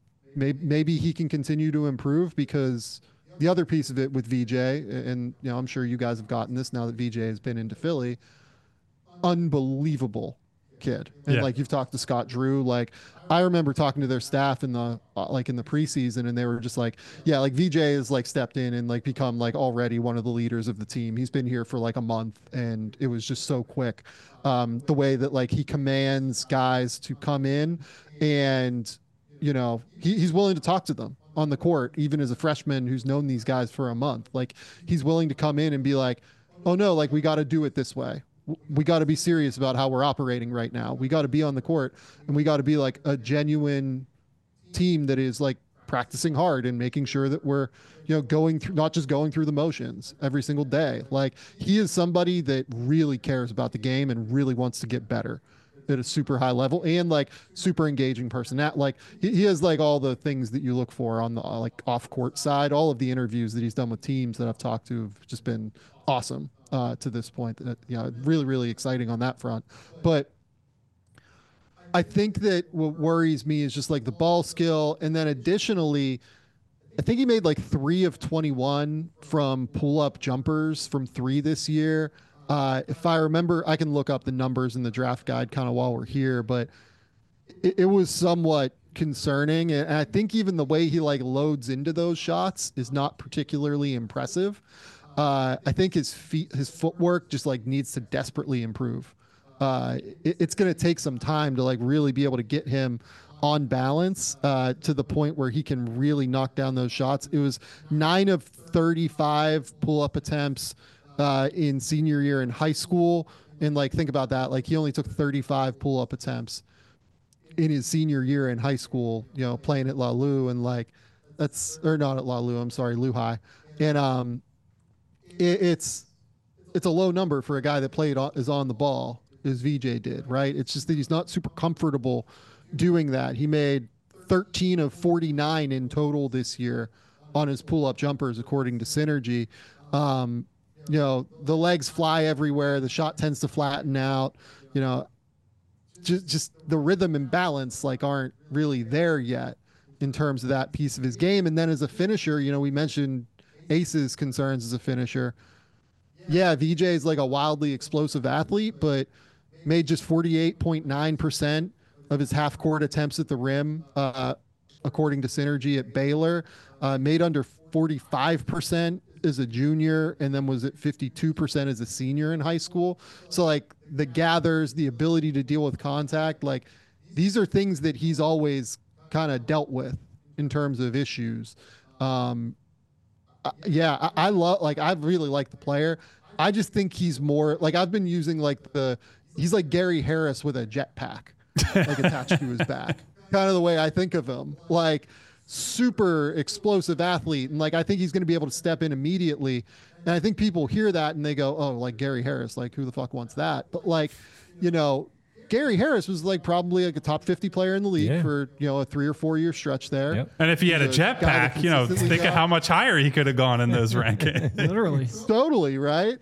maybe he can continue to improve, because the other piece of it with VJ, and I'm sure you guys have gotten this now that VJ has been into Philly, unbelievable kid. And you've talked to Scott Drew, I remember talking to their staff in the in the preseason, and they were just VJ has stepped in and become already one of the leaders of the team. He's been here for a month, and it was just so quick. The way that he commands guys to come in, and he's willing to talk to them on the court, even as a freshman who's known these guys for a month. He's willing to come in and be oh no, we got to do it this way. We got to be serious about how we're operating right now. We got to be on the court, and we got to be a genuine team that is practicing hard and making sure that we're, going through, not just going through the motions every single day. He is somebody that really cares about the game and really wants to get better at a super high level, and super engaging person. He has all the things that you look for on the off court side. All of the interviews that he's done with teams that I've talked to have just been awesome to this point. Really, really exciting on that front. But I think that what worries me is just like the ball skill. And then additionally, I think he made like 3 of 21 from pull-up jumpers from 3 this year. If I remember, I can look up the numbers in the draft guide kind of while we're here, but it was somewhat concerning. And I think even the way he like loads into those shots is not particularly impressive. I think his footwork just like needs to desperately improve. It's going to take some time to like really be able to get him on balance to the point where he can really knock down those shots. It was 9 of 35 pull-up attempts in senior year in high school. And like, think about that. Like he only took 35 pull-up attempts in his senior year in high school, you know, playing at La Lu, and like or not at La Lu, I'm sorry, Lu High. And it's a low number for a guy that is on the ball as VJ did, right? It's just that he's not super comfortable doing that. He made 13 of 49 in total this year on his pull-up jumpers, according to Synergy. You know, the legs fly everywhere. The shot tends to flatten out. You know, just the rhythm and balance like aren't really there yet in terms of that piece of his game. And then as a finisher, you know, we mentioned Ace's concerns as a finisher. Yeah, VJ is like a wildly explosive athlete, but made just 48.9% of his half-court attempts at the rim, according to Synergy at Baylor. Made under 45% as a junior, and then was at 52% as a senior in high school. So like the gathers, the ability to deal with contact, like these are things that he's always kind of dealt with in terms of issues. I love, like, I really like the player. I just think he's more like, I've been using like he's like Gary Harris with a jetpack, like attached to his back, kind of the way I think of him. Like, super explosive athlete, and like I think he's going to be able to step in immediately. And I think people hear that and they go, oh, like Gary Harris, like who the fuck wants that? But like, you know, Gary Harris was like probably like a top 50 player in the league for, you know, a 3 or 4 year stretch there. Yep. And if he had a jetpack, you know, think of how much higher he could have gone in those rankings. Literally. Totally, right?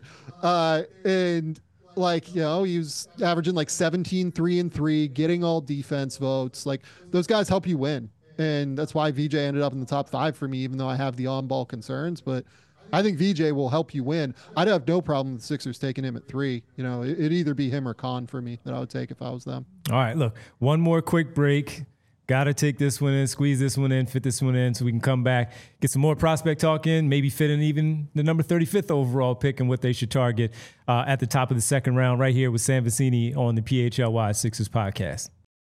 And like, you know, he was averaging like 17, 3 and 3, getting all defense votes. Like those guys help you win. And that's why VJ ended up in the top 5 for me, even though I have the on-ball concerns. But I think VJ will help you win. I'd have no problem with the Sixers taking him at 3. You know, it'd either be him or Khan for me that I would take if I was them. All right, look, one more quick break. Got to take this one in, squeeze this one in, fit this one in so we can come back, get some more prospect talk in, maybe fit in even the number 35th overall pick and what they should target at the top of the second round right here with Sam Vecenie on the PHLY Sixers podcast.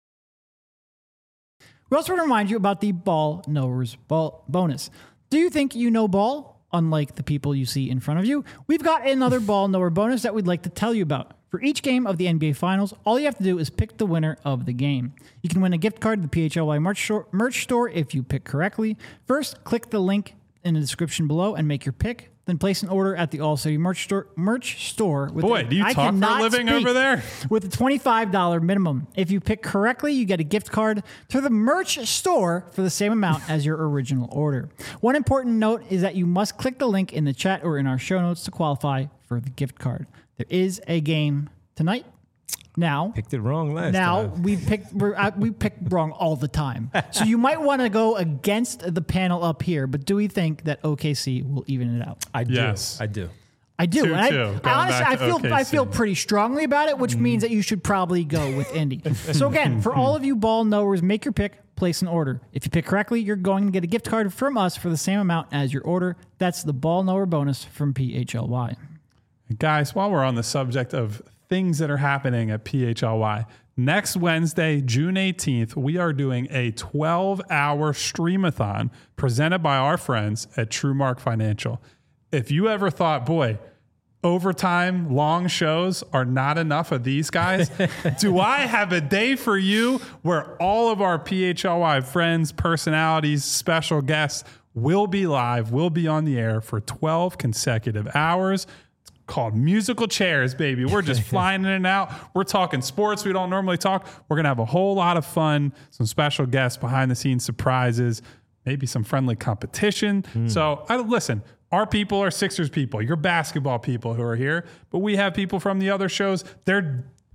We also want to remind you about the Ball Knowers bonus. Do you think you know ball? Unlike the people you see in front of you, we've got another Ball Knower bonus that we'd like to tell you about. For each game of the NBA Finals, all you have to do is pick the winner of the game. You can win a gift card to the PHLY merch store if you pick correctly. First, click the link in the description below and make your pick. Then place an order at the All City merch store. With Boy, do you talk for a living over there? With a $25 minimum. If you pick correctly, you get a gift card to the merch store for the same amount as your original order. One important note is that you must click the link in the chat or in our show notes to qualify for the gift card. There is a game tonight. Now picked it wrong last time. we pick wrong all the time. So you might want to go against the panel up here, but do we think that OKC will even it out? I do. Yes. I do. I do. And I feel pretty strongly about it, which means that you should probably go with Indy. So again, for all of you ball knowers, make your pick, place an order. If you pick correctly, you're going to get a gift card from us for the same amount as your order. That's the Ball Knower bonus from PHLY. Guys, while we're on the subject of things that are happening at PHLY, next Wednesday, June 18th, we are doing a 12-hour streamathon presented by our friends at TrueMark Financial. If you ever thought, boy, overtime, long shows are not enough of these guys, do I have a day for you where all of our PHLY friends, personalities, special guests will be live, will be on the air for 12 consecutive hours. Called Musical Chairs, baby. We're just flying in and out. We're talking sports we don't normally talk. We're going to have a whole lot of fun, some special guests, behind-the-scenes surprises, maybe some friendly competition. So, listen, our people are Sixers people. You're basketball people who are here, but we have people from the other shows. They're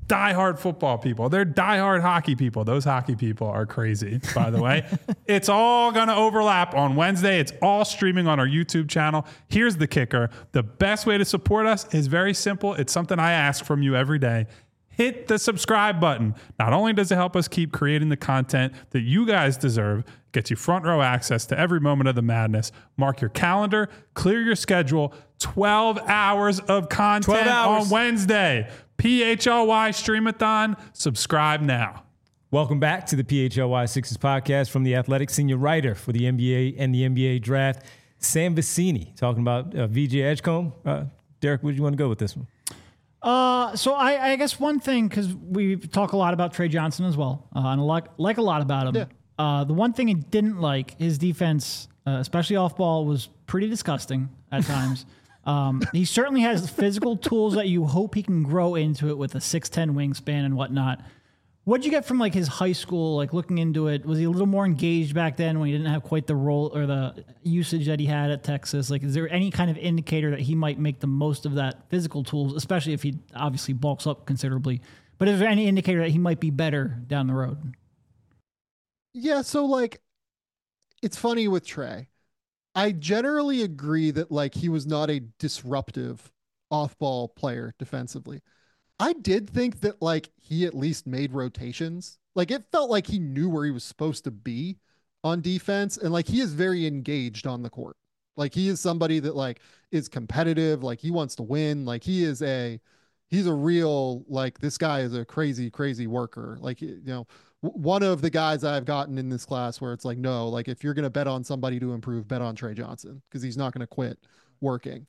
diehard football people. They're diehard hockey people. Those hockey people are crazy, by the way. It's all going to overlap on Wednesday. It's all streaming on our YouTube channel. Here's the kicker. The best way to support us is very simple. It's something I ask from you every day. Hit the subscribe button. Not only does it help us keep creating the content that you guys deserve, gets you front row access to every moment of the madness. Mark your calendar, clear your schedule. 12 hours of content on Wednesday. PHLY Streamathon. Subscribe now. Welcome back to the PHLY Sixers podcast from The Athletic. Senior writer for the NBA and the NBA draft, Sam Vecenie, talking about VJ Edgecombe. Derek, where do you want to go with this one? So I guess one thing, because we talk a lot about Trey Johnson as well, and like a lot about him. Yeah. The one thing he didn't like, his defense, especially off ball, was pretty disgusting at times. He certainly has physical tools that you hope he can grow into it with a 6'10" wingspan and whatnot. What'd you get from like his high school, like looking into it? Was he a little more engaged back then when he didn't have quite the role or the usage that he had at Texas? Like, is there any kind of indicator that he might make the most of that physical tools, especially if he obviously bulks up considerably? But is there any indicator that he might be better down the road? Yeah, so like, it's funny with Trey. I generally agree that like he was not a disruptive off-ball player defensively. I did think that like he at least made rotations. Like it felt like he knew where he was supposed to be on defense, and like he is very engaged on the court. Like he is somebody that like is competitive, like he wants to win. Like he's a real, like this guy is a crazy worker. Like, you know, one of the guys I've gotten in this class where it's like, no, like if you're going to bet on somebody to improve, bet on Trey Johnson, because he's not going to quit working.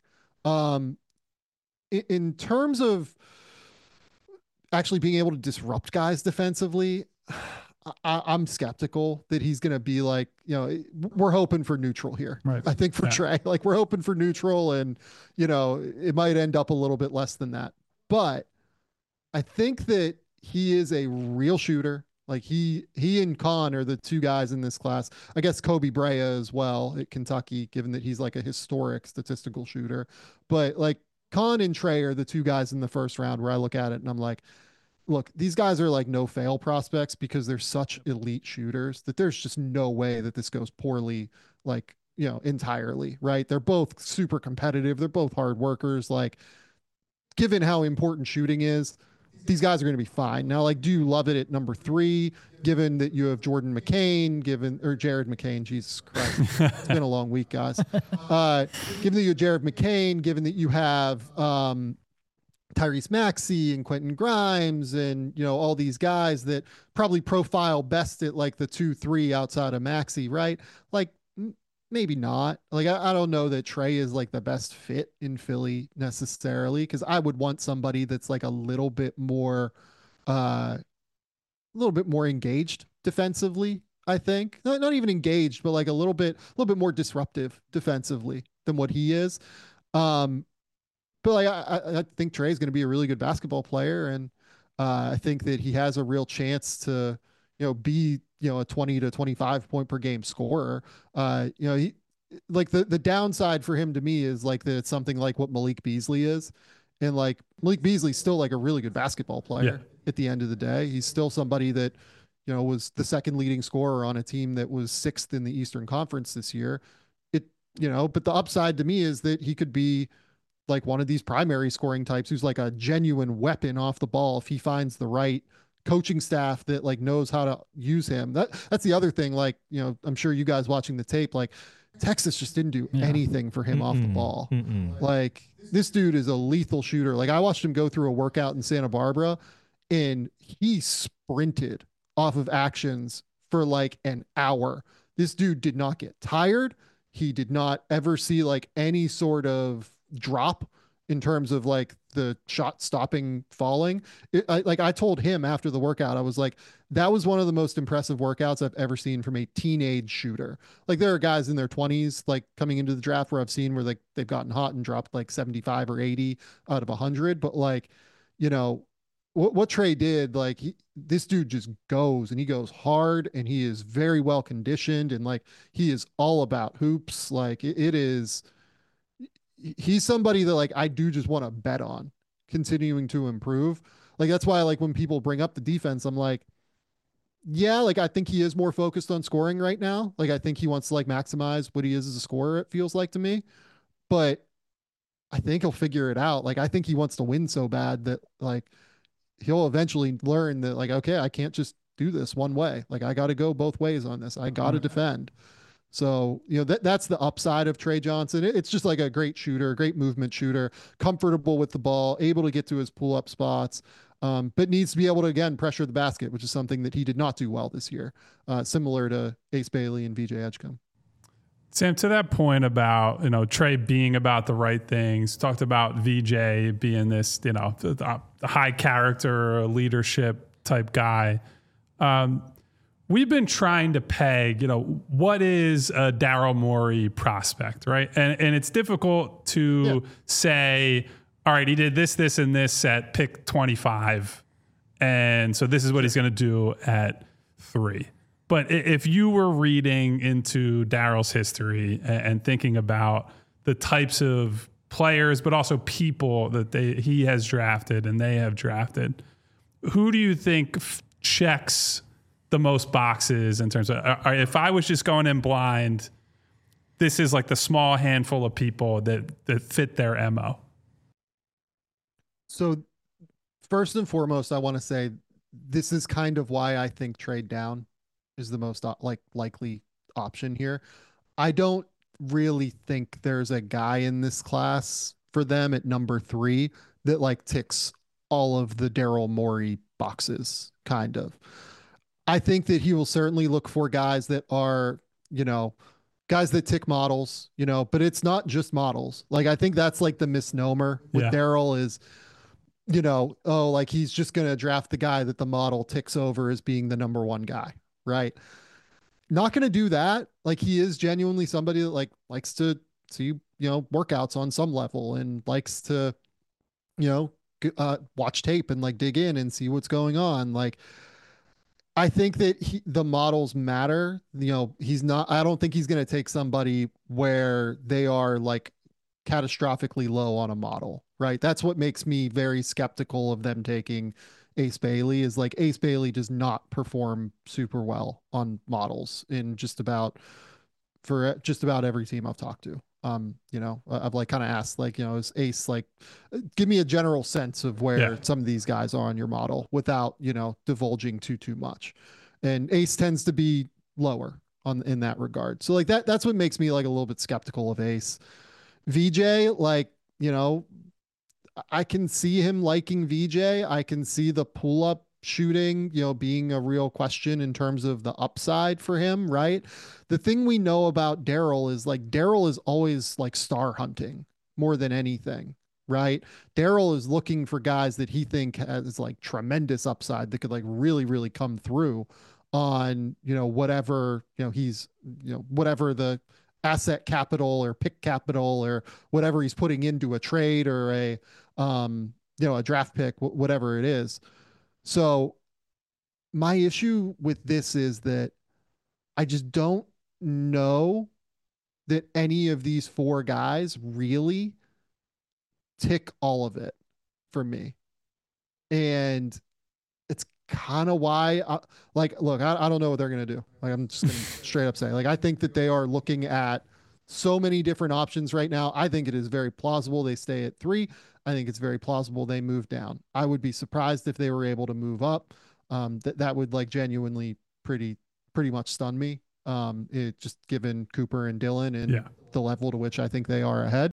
In terms of actually being able to disrupt guys defensively, I'm skeptical that he's going to be like, you know, we're hoping for neutral here. Right. I think for Trey, like we're hoping for neutral, and, you know, it might end up a little bit less than that. But I think that he is a real shooter. Like he and Con are the two guys in this class. I guess Kobe Brea as well at Kentucky, given that he's like a historic statistical shooter. But like Con and Trey are the two guys in the first round where I look at it and I'm like, look, these guys are like no fail prospects because they're such elite shooters that there's just no way that this goes poorly, like, you know, entirely, right? They're both super competitive. They're both hard workers. Like, given how important shooting is, these guys are going to be fine. Now, like, do you love it at number 3, given that you have Jordan McCain, or Jared McCain, Jesus Christ. It's been a long week, guys. Given that you have Jared McCain, given that you have Tyrese Maxey and Quentin Grimes and, you know, all these guys that probably profile best at like the 2-3 outside of Maxey, right? Like, maybe not. Like, I don't know that Trey is like the best fit in Philly necessarily, because I would want somebody that's like a little bit more engaged defensively. I think not even engaged, but like a little bit more disruptive defensively than what he is. But like I think Trey is going to be a really good basketball player, and I think that he has a real chance to, you know, be, you know, a 20 to 25 point per game scorer. You know, he, like the downside for him to me is like that it's something like what Malik Beasley is. And like Malik Beasley's still like a really good basketball player at the end of the day. He's still somebody that, you know, was the second leading scorer on a team that was 6th in the Eastern Conference this year. You know, but the upside to me is that he could be like one of these primary scoring types who's like a genuine weapon off the ball if he finds the right coaching staff that like knows how to use him. That's the other thing. Like, you know, I'm sure you guys watching the tape, like Texas just didn't do anything for him off the ball. Like this dude is a lethal shooter. Like I watched him go through a workout in Santa Barbara and he sprinted off of actions for like an hour. This dude did not get tired. He did not ever see like any sort of drop in terms of like the shot stopping falling. I told him after the workout, I was like, that was one of the most impressive workouts I've ever seen from a teenage shooter. Like there are guys in their 20s, like coming into the draft where I've seen where like they've gotten hot and dropped like 75 or 80 out of 100. But like, you know, what Trey did, like this dude just goes and he goes hard and he is very well conditioned and like he is all about hoops. Like he's somebody that like I do just want to bet on continuing to improve. Like, that's why, like, when people bring up the defense, I'm like, yeah, like, I think he is more focused on scoring right now. Like, I think he wants to like maximize what he is as a scorer, it feels like to me. But I think he'll figure it out. Like, I think he wants to win so bad that like he'll eventually learn that, like, okay, I can't just do this one way. Like, I got to go both ways on this. I got to defend. So, that's the upside of Trey Johnson. It's just like a great shooter, great movement shooter, comfortable with the ball, able to get to his pull up spots, but needs to be able to, again, pressure the basket, which is something that he did not do well this year, similar to Ace Bailey and VJ Edgecombe. Sam, to that point about, Trey being about the right things, talked about VJ being this, the high character, leadership type guy. We've been trying to peg, what is a Daryl Morey prospect, right? And it's difficult to say, all right, he did this, and this at pick 25. And so this is what he's going to do at 3. But if you were reading into Daryl's history and thinking about the types of players, but also people that he has drafted and they have drafted, who do you think checks the most boxes in terms of, if I was just going in blind, this is like the small handful of people that fit their MO? So first and foremost, I want to say this is kind of why I think trade down is the most likely option here. I don't really think there's a guy in this class for them at number 3 that like ticks all of the Daryl Morey boxes, kind of. I think that he will certainly look for guys that are, guys that tick models, but it's not just models. Like, I think that's like the misnomer with Daryl is, like he's just going to draft the guy that the model ticks over as being the number 1 guy, right? Not going to do that. Like, he is genuinely somebody that like likes to see, workouts on some level and likes to, watch tape and like dig in and see what's going on. Like, I think that the models matter. I don't think he's going to take somebody where they are like catastrophically low on a model, right? That's what makes me very skeptical of them taking Ace Bailey, is like Ace Bailey does not perform super well on models for just about every team I've talked to. I've like kind of asked, like, is Ace like, give me a general sense of where some of these guys are on your model without, divulging too much. And Ace tends to be lower in that regard. So like that's what makes me like a little bit skeptical of Ace. VJ, like, I can see him liking VJ. I can see the pull up shooting, being a real question in terms of the upside for him, right? The thing we know about Daryl is like Daryl is always like star hunting more than anything, right? Daryl is looking for guys that he think has like tremendous upside that could like really, really come through on, whatever, whatever the asset capital or pick capital or whatever he's putting into a trade or a draft pick, whatever it is. So my issue with this is that I just don't know that any of these 4 guys really tick all of it for me. And it's kind of why look, I don't know what they're going to do. Like, I'm just going to straight up say, like, I think that they are looking at so many different options right now. I think it is very plausible they stay at 3. I think it's very plausible they move down. I would be surprised if they were able to move up. That would like genuinely pretty much stun me. It just given Cooper and Dillon and the level to which I think they are ahead.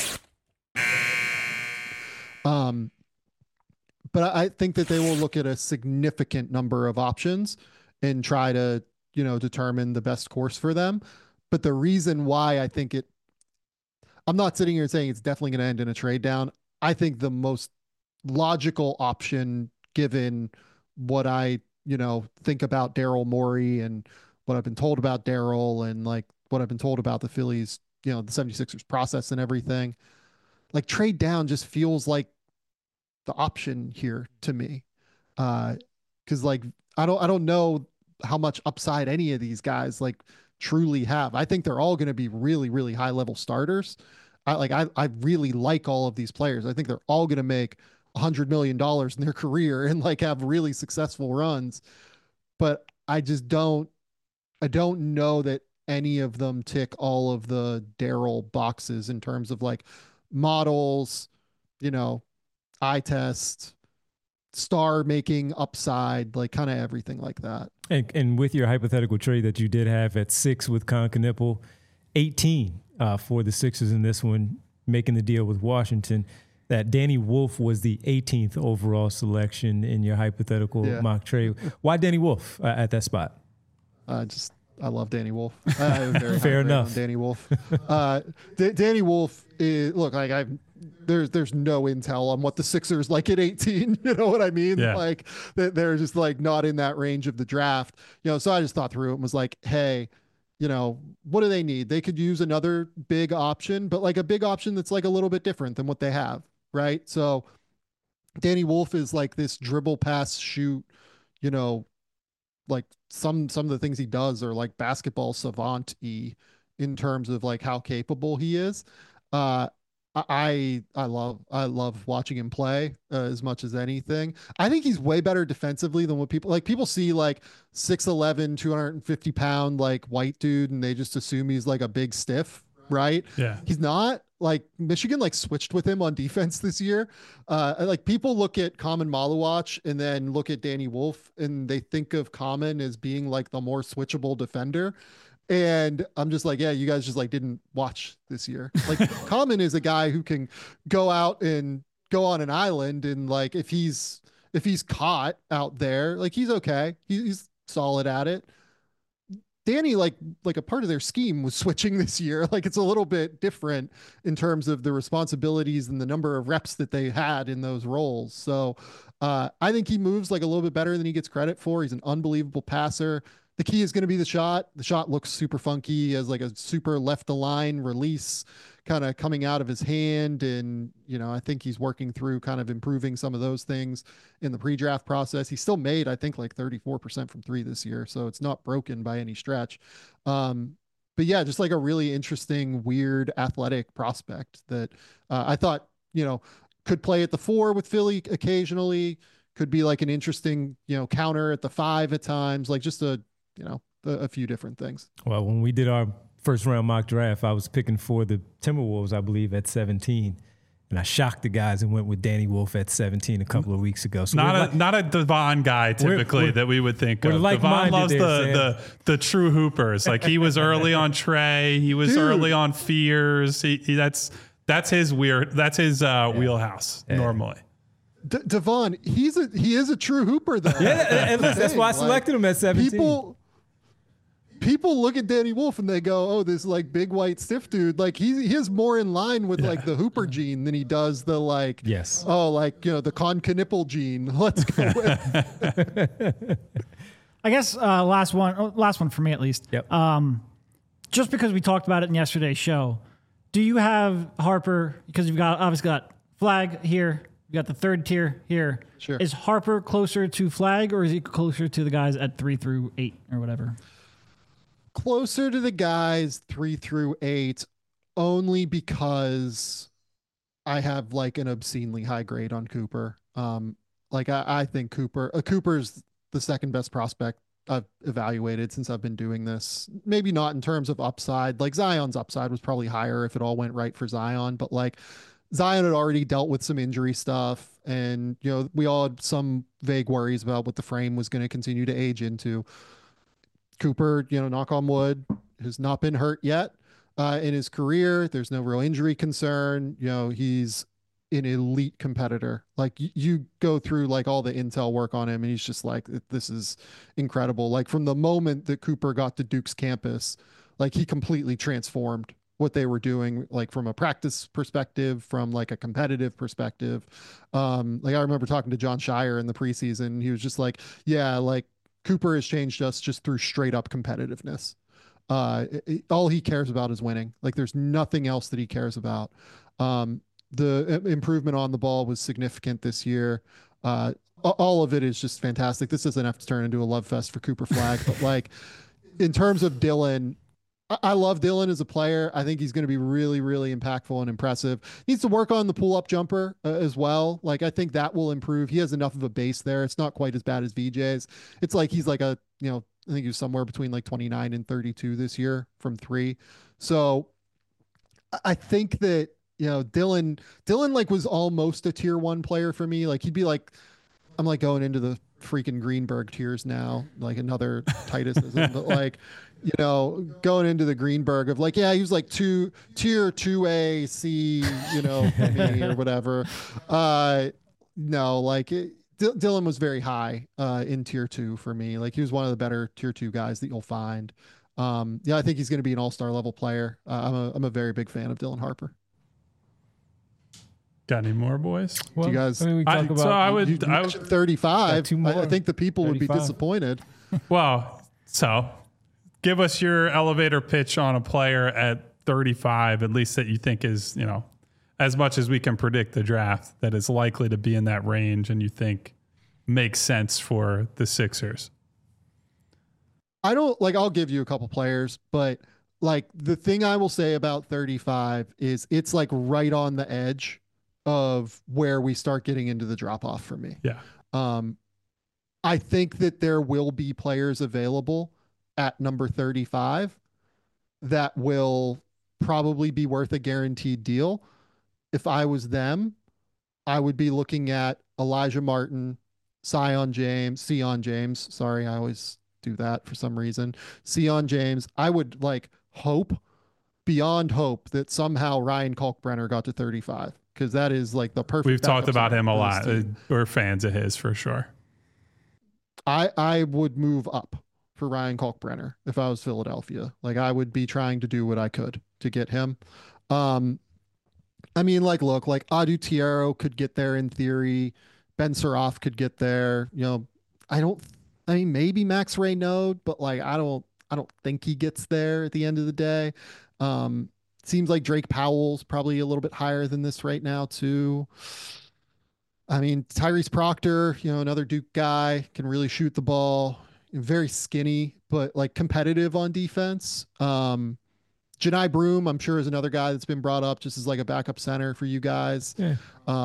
But I think that they will look at a significant number of options and try to, determine the best course for them. But the reason why I think I'm not sitting here saying it's definitely going to end in a trade down. I think the most logical option, given what I, think about Daryl Morey and what I've been told about Daryl and like what I've been told about the Phillies, the 76ers process and everything, like trade down just feels like the option here to me. Cause like, I don't know how much upside any of these guys like truly have. I think they're all going to be really, really high level starters. I really like all of these players. I think they're all going to make $100 million in their career and like have really successful runs. But I don't know that any of them tick all of the Daryl boxes in terms of like models, eye test, star making upside, like kind of everything like that. And with your hypothetical trade that you did have at 6 with Con Knippel, 18 for the Sixers in this one, making the deal with Washington, that Danny Wolf was the 18th overall selection in your hypothetical mock trade. Why Danny Wolf at that spot? I love Danny Wolf. I have a very fair enough. Danny Wolf. Danny Wolf is there's no intel on what the Sixers like at 18. You know what I mean? Yeah. Like they're just like not in that range of the draft. So I just thought through it and was like, hey, what do they need? They could use another big option, but like a big option that's like a little bit different than what they have, right? So Danny Wolf is like this dribble, pass, shoot, like some of the things he does are like basketball savant-y in terms of like how capable he is. I love watching him play as much as anything. I think he's way better defensively than what people see like 6'11", 250 pound like white dude, and they just assume he's like a big stiff, right? Yeah. He's not. Like Michigan like switched with him on defense this year. Like people look at Common Maluach and then look at Danny Wolf and they think of Common as being like the more switchable defender. And I'm just like, yeah, you guys just like didn't watch this year. Like Common is a guy who can go out and go on an island, and like if he's caught out there, like he's okay. He's solid at it. Danny, like a part of their scheme was switching this year. Like it's a little bit different in terms of the responsibilities and the number of reps that they had in those roles. So I think he moves like a little bit better than he gets credit for. He's an unbelievable passer. The key is going to be the shot. The shot looks super funky as like a super left align release kind of coming out of his hand. And, I think he's working through kind of improving some of those things in the pre-draft process. He still made, I think, like 34% from 3 this year. So it's not broken by any stretch. But yeah, just like a really interesting, weird athletic prospect that I thought, could play at the 4 with Philly occasionally, could be like an interesting, counter at the 5 at times, like just a few different things. Well, when we did our first round mock draft, I was picking for the Timberwolves, I believe, at 17. And I shocked the guys and went with Danny Wolf at 17 a couple of weeks ago. So not a Devon guy typically that we would think of. Devon loves the true hoopers. Like he was early on Trey, he was early on Fears. That's his wheelhouse normally. Devon, he is a true hooper though. Yeah, and that's why I selected him at 17. People look at Danny Wolf and they go, "Oh, this like big white stiff dude." Like he is more in line with like the hooper gene than he does the like. Yes. Oh, like the Con Knippel gene. Let's go with. I guess last one for me at least. Yep. Just because we talked about it in yesterday's show, do you have Harper? Because you've obviously got Flag here. You got the third tier here. Sure. Is Harper closer to Flag, or is he closer to the guys at 3 through 8 or whatever? Closer to the guys 3 through 8, only because I have like an obscenely high grade on Cooper. Like I think Cooper's the second best prospect I've evaluated since I've been doing this. Maybe not in terms of upside. Like Zion's upside was probably higher if it all went right for Zion, but like Zion had already dealt with some injury stuff, and we all had some vague worries about what the frame was going to continue to age into. Cooper, knock on wood, has not been hurt yet in his career. There's no real injury concern. He's an elite competitor. Like you go through like all the intel work on him and he's just like, this is incredible. Like from the moment that Cooper got to Duke's campus, like he completely transformed what they were doing, like from a practice perspective, from like a competitive perspective. Like I remember talking to John Shire in the preseason. He was just like, yeah, like Cooper has changed us just through straight up competitiveness. All he cares about is winning. Like there's nothing else that he cares about. The improvement on the ball was significant this year. All of it is just fantastic. This doesn't have to turn into a love fest for Cooper Flag, but like in terms of Dylan, I love Dillon as a player. I think he's going to be really, really impactful and impressive. Needs to work on the pull-up jumper as well. Like, I think that will improve. He has enough of a base there. It's not quite as bad as VJ's. It's like he's like a, I think he was somewhere between like 29 and 32 this year from three. So I think that, Dillon like was almost a tier 1 player for me. Like, he'd be like, I'm like going into the freaking Greenberg tiers now, like another Titusism, but like, going into the Greenberg of like, yeah, he was like tier 2A C, for me or whatever. No, like Dillon was very high in tier 2 for me. Like, he was one of the better tier 2 guys that you'll find. Yeah, I think he's going to be an all-star level player. I'm a very big fan of Dylan Harper. Got any more, boys? Well, do you guys? I mean, we talk about. So I would 35. I think the people 35. Would be disappointed. Well, so give us your elevator pitch on a player at 35, at least that you think is, as much as we can predict the draft, that is likely to be in that range, and you think makes sense for the Sixers. I'll give you a couple players, but like the thing I will say about 35 is it's like right on the edge of where we start getting into the drop off for me. Yeah. I think that there will be players available at number 35 that will probably be worth a guaranteed deal. If I was them, I would be looking at Elijah Martin, Sion James. Sorry, I always do that for some reason. Sion James. I would like hope beyond hope that somehow Ryan Kalkbrenner got to 35. Because that is like the perfect. We've talked about him a lot. We're fans of his for sure. I would move up for Ryan Kalkbrenner if I was Philadelphia. Like, I would be trying to do what I could to get him. I mean, like, look, like Adu Tiero could get there in theory. Ben Suraf could get there. Maybe Max Raynaud, but like, I don't think he gets there at the end of the day. Seems like Drake Powell's probably a little bit higher than this right now too. I mean, Tyrese Proctor, another Duke guy, can really shoot the ball, very skinny, but like competitive on defense. Janai Broom, I'm sure, is another guy that's been brought up just as like a backup center for you guys. Yeah.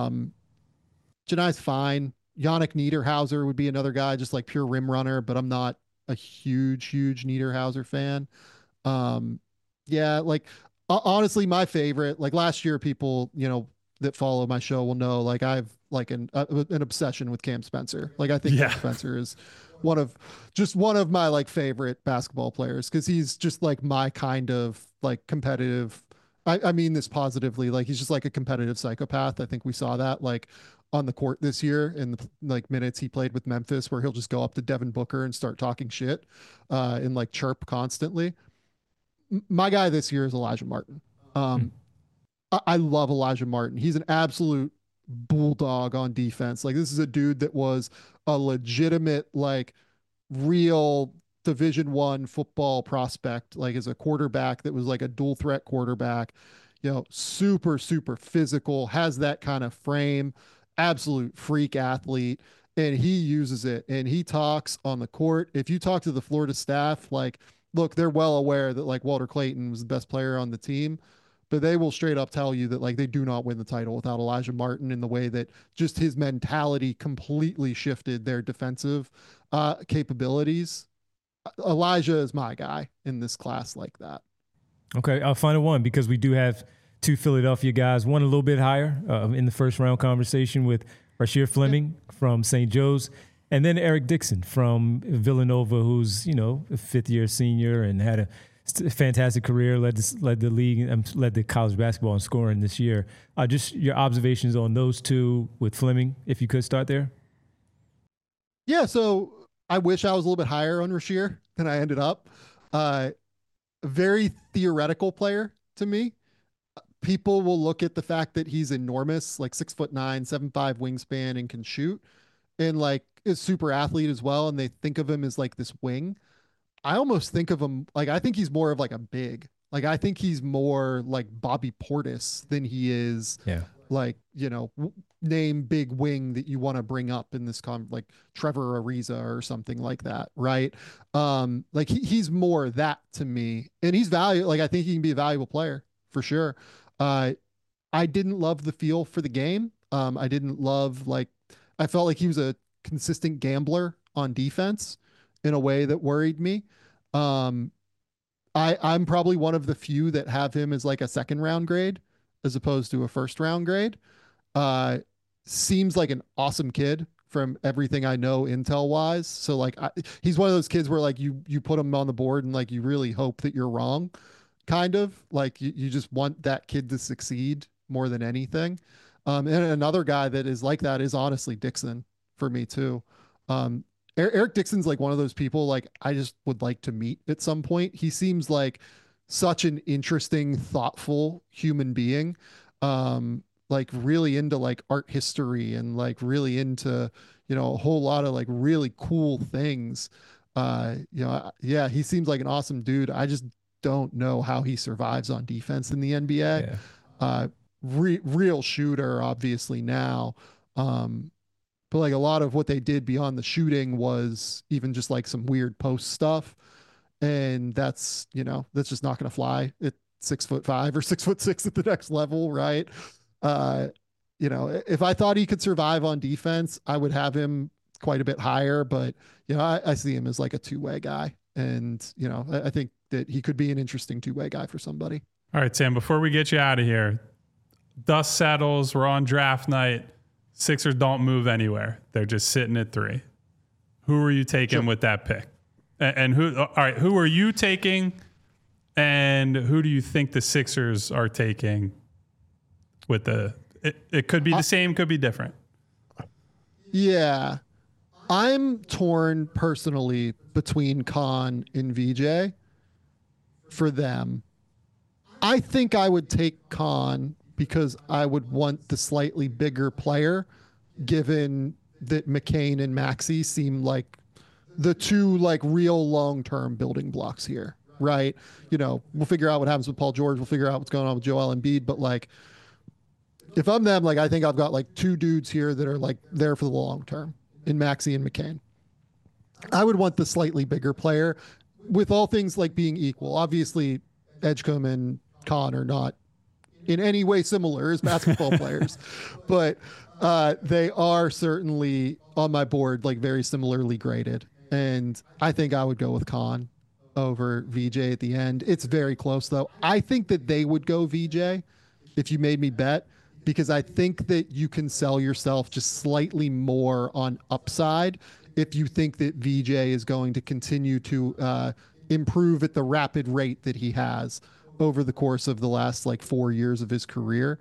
Janai's fine. Yannick Niederhauser would be another guy, just like pure rim runner, but I'm not a huge Niederhauser fan. Yeah, like honestly, my favorite, like last year, people, that follow my show will know, like I've like an obsession with Cam Spencer. Like, I think Cam Spencer is one of my like favorite basketball players, because he's just like my kind of like competitive. I mean this positively. Like, he's just like a competitive psychopath. I think we saw that like on the court this year in the like minutes he played with Memphis, where he'll just go up to Devin Booker and start talking shit and like chirp constantly. My guy this year is Elijah Martin. I love Elijah Martin. He's an absolute bulldog on defense. Like, this is a dude that was a legitimate, like, real Division I football prospect, like as a quarterback that was like a dual threat quarterback, super, super physical, has that kind of frame, absolute freak athlete. And he uses it, and he talks on the court. If you talk to the Florida staff, like, look, they're well aware that like Walter Clayton was the best player on the team, but they will straight up tell you that like they do not win the title without Elijah Martin, in the way that just his mentality completely shifted their defensive capabilities. Elijah is my guy in this class like that. Okay, I'll find one, because we do have two Philadelphia guys, one a little bit higher in the first round conversation with Rasheer Fleming from St. Joe's, and then Eric Dixon from Villanova, who's, a fifth-year senior and had a fantastic career, led the league, led the college basketball in scoring this year. Just your observations on those two with Fleming, if you could start there. Yeah, so I wish I was a little bit higher on Rasheer than I ended up. Very theoretical player to me. People will look at the fact that he's enormous, like 6'9", 7'5" wingspan, and can shoot, and like is super athlete as well, and they think of him as like this wing. I almost think of him like, I think he's more of like a big. Like, I think he's more like Bobby Portis than he is like, name big wing that you want to bring up in this like Trevor Ariza or something like that. Right. Like he's more that to me, and he's valuable. Like, I think he can be a valuable player for sure. I didn't love the feel for the game. I didn't love, I felt like he was a consistent gambler on defense in a way that worried me. I'm probably one of the few that have him as like a second round grade as opposed to a first round grade. Seems like an awesome kid from everything I know intel wise. So like he's one of those kids where like you put him on the board and like you really hope that you're wrong, kind of like you just want that kid to succeed more than anything. And another guy that is like that is honestly Dixon for me too. Eric Dixon's like one of those people like I just would like to meet at some point. He seems like such an interesting, thoughtful human being. Like really into like art history and like really into, a whole lot of like really cool things. Yeah, he seems like an awesome dude. I just don't know how he survives on defense in the NBA. Yeah. Real shooter, obviously now. But like a lot of what they did beyond the shooting was even just like some weird post stuff. And that's just not going to fly at 6'5" or 6'6" at the next level. Right. If I thought he could survive on defense, I would have him quite a bit higher, but I see him as like a two-way guy. And, I think that he could be an interesting two-way guy for somebody. All right, Sam, before we get you out of here, dust settles, we're on draft night. Sixers don't move anywhere. They're just sitting at 3. Who are you taking with that pick? And who are you taking? And who do you think the Sixers are taking with it could be the same, could be different. Yeah. I'm torn personally between Khan and VJ for them. I think I would take Khan because I would want the slightly bigger player, given that McCain and Maxey seem like the two like real long-term building blocks here, right? We'll figure out what happens with Paul George. We'll figure out what's going on with Joel Embiid. But like, if I'm them, like I think I've got like two dudes here that are like there for the long term in Maxey and McCain. I would want the slightly bigger player, with all things like being equal. Obviously, Edgecombe and Khan are not in any way similar as basketball players, but they are certainly on my board like very similarly graded. And I think I would go with Khan over VJ at the end. It's very close though. I think that they would go VJ if you made me bet, because I think that you can sell yourself just slightly more on upside if you think that VJ is going to continue to improve at the rapid rate that he has over the course of the last like 4 years of his career.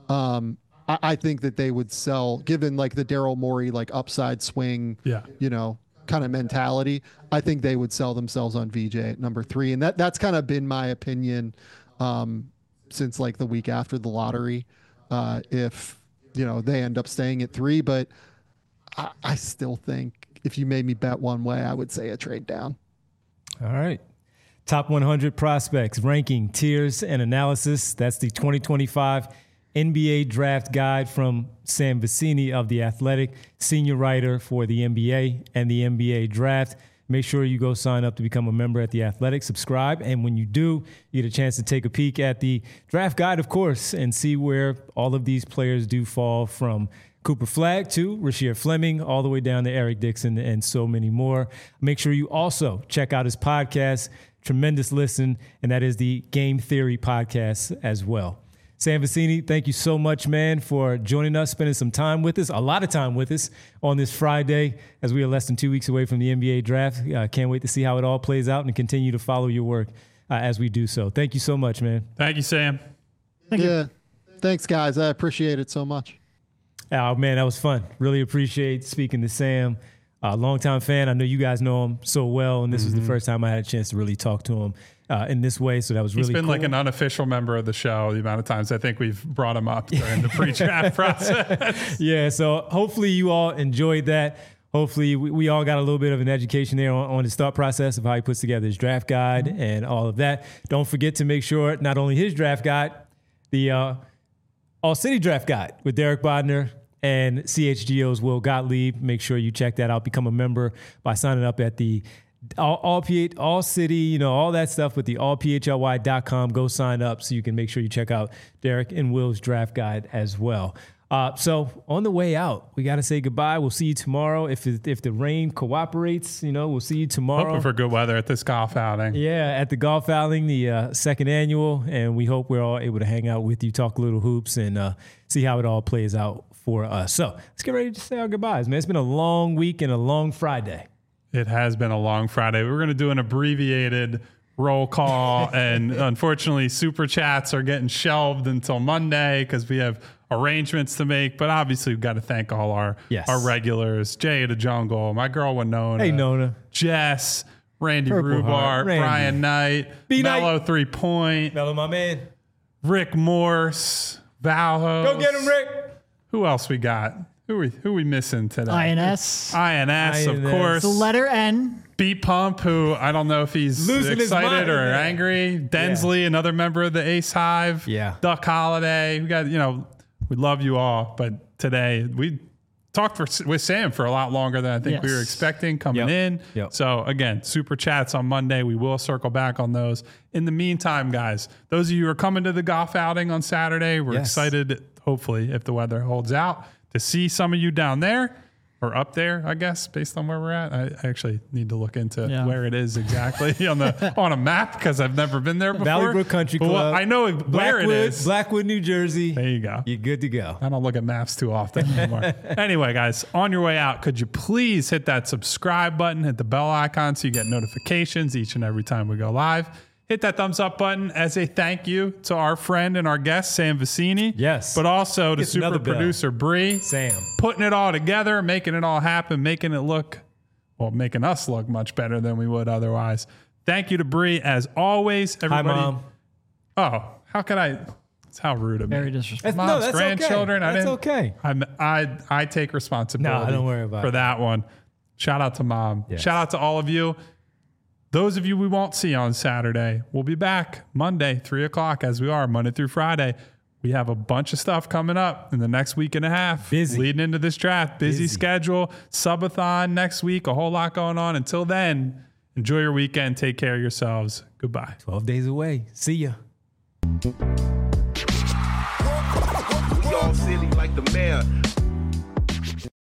I think that they would sell, given like the Daryl Morey like upside swing, kind of mentality. I think they would sell themselves on VJ at number 3, and that's kind of been my opinion since like the week after the lottery. If they end up staying at 3, but I still think if you made me bet one way, I would say a trade down. All right. Top 100 prospects, ranking, tiers, and analysis. That's the 2025 NBA Draft Guide from Sam Vecenie of The Athletic, senior writer for the NBA and the NBA Draft. Make sure you go sign up to become a member at The Athletic. Subscribe, and when you do, you get a chance to take a peek at the Draft Guide, of course, and see where all of these players do fall, from Cooper Flagg to Rasheer Fleming, all the way down to Eric Dixon and so many more. Make sure you also check out his podcast. Tremendous listen, and that is the Game Theory podcast as well. Sam Vecenie, thank you so much, man, for joining us, spending some time with us, a lot of time with us on this Friday as we are less than 2 weeks away from the NBA draft. Can't wait to see how it all plays out and continue to follow your work as we do so. Thank you so much, man. Thank you, Sam. Thank you. Thanks, guys. I appreciate it so much. Oh, man, that was fun. Really appreciate speaking to Sam. Longtime fan. I know you guys know him so well, and this was the first time I had a chance to really talk to him in this way, so that was really cool. He's been like an unofficial member of the show, the amount of times I think we've brought him up during the pre-draft process. Yeah, so hopefully you all enjoyed that. Hopefully we all got a little bit of an education there on his thought process of how he puts together his draft guide and all of that. Don't forget to make sure not only his draft guide, the All City Draft Guide with Derek Bodner and CHGO's Will Gottlieb. Make sure you check that out. Become a member by signing up at the All City, all that stuff with the allphly.com. Go sign up so you can make sure you check out Derek and Will's draft guide as well. So on the way out, we got to say goodbye. We'll see you tomorrow. If the rain cooperates, we'll see you tomorrow. Hoping for good weather at this golf outing. Yeah, at the golf outing, the second annual. And we hope we're all able to hang out with you, talk a little hoops, and see how it all plays out for us. So let's get ready to say our goodbyes, man. It's been a long week and a long Friday. It has been a long Friday. We're going to do an abbreviated roll call. And unfortunately, Super Chats are getting shelved until Monday because we have arrangements to make, but obviously we've got to thank all our regulars: Jay the Jungle, my girl Winona, hey Nona, Jess, Randy Purple Rubart, Heart, Randy. Brian Knight, Mello 3 Point, Mello my man, Rick Morse, Valho. Go get him, Rick. Who else we got? Who we missing today? INS, of course. The letter N. Beat Pump, who I don't know if he's losing excited or angry. Densley, another member of the Ace Hive. Yeah. Duck Holiday. We got, we love you all, but today we talked with Sam for a lot longer than I think we were expecting coming in. Yep. So again, Super Chats on Monday. We will circle back on those. In the meantime, guys, those of you who are coming to the golf outing on Saturday, we're excited, hopefully, if the weather holds out, to see some of you down there. Or up there, I guess, based on where we're at. I actually need to look into where it is exactly on a map because I've never been there before. Valley Brook Country Club. Well, I know where it is. Blackwood, New Jersey. There you go. You're good to go. I don't look at maps too often anymore. Anyway, guys, on your way out, could you please hit that subscribe button, hit the bell icon so you get notifications each and every time we go live. Hit that thumbs up button as a thank you to our friend and our guest, Sam Vicini. Yes. But also to super producer Bree. Sam. Putting it all together, making it all happen, making us look much better than we would otherwise. Thank you to Bree as always. Everybody. Hi, Mom. Oh, how could I? It's how rude of me. Very disrespectful. Mom's that's grandchildren. Okay. That's okay. I take responsibility. No, don't worry about for that one. Shout out to Mom. Yes. Shout out to all of you. Those of you we won't see on Saturday, we'll be back Monday, 3:00, as we are Monday through Friday. We have a bunch of stuff coming up in the next week and a half. Busy. Leading into this draft. Busy schedule. Subathon next week. A whole lot going on. Until then, enjoy your weekend. Take care of yourselves. Goodbye. 12 days away. See ya. We all silly like the mayor.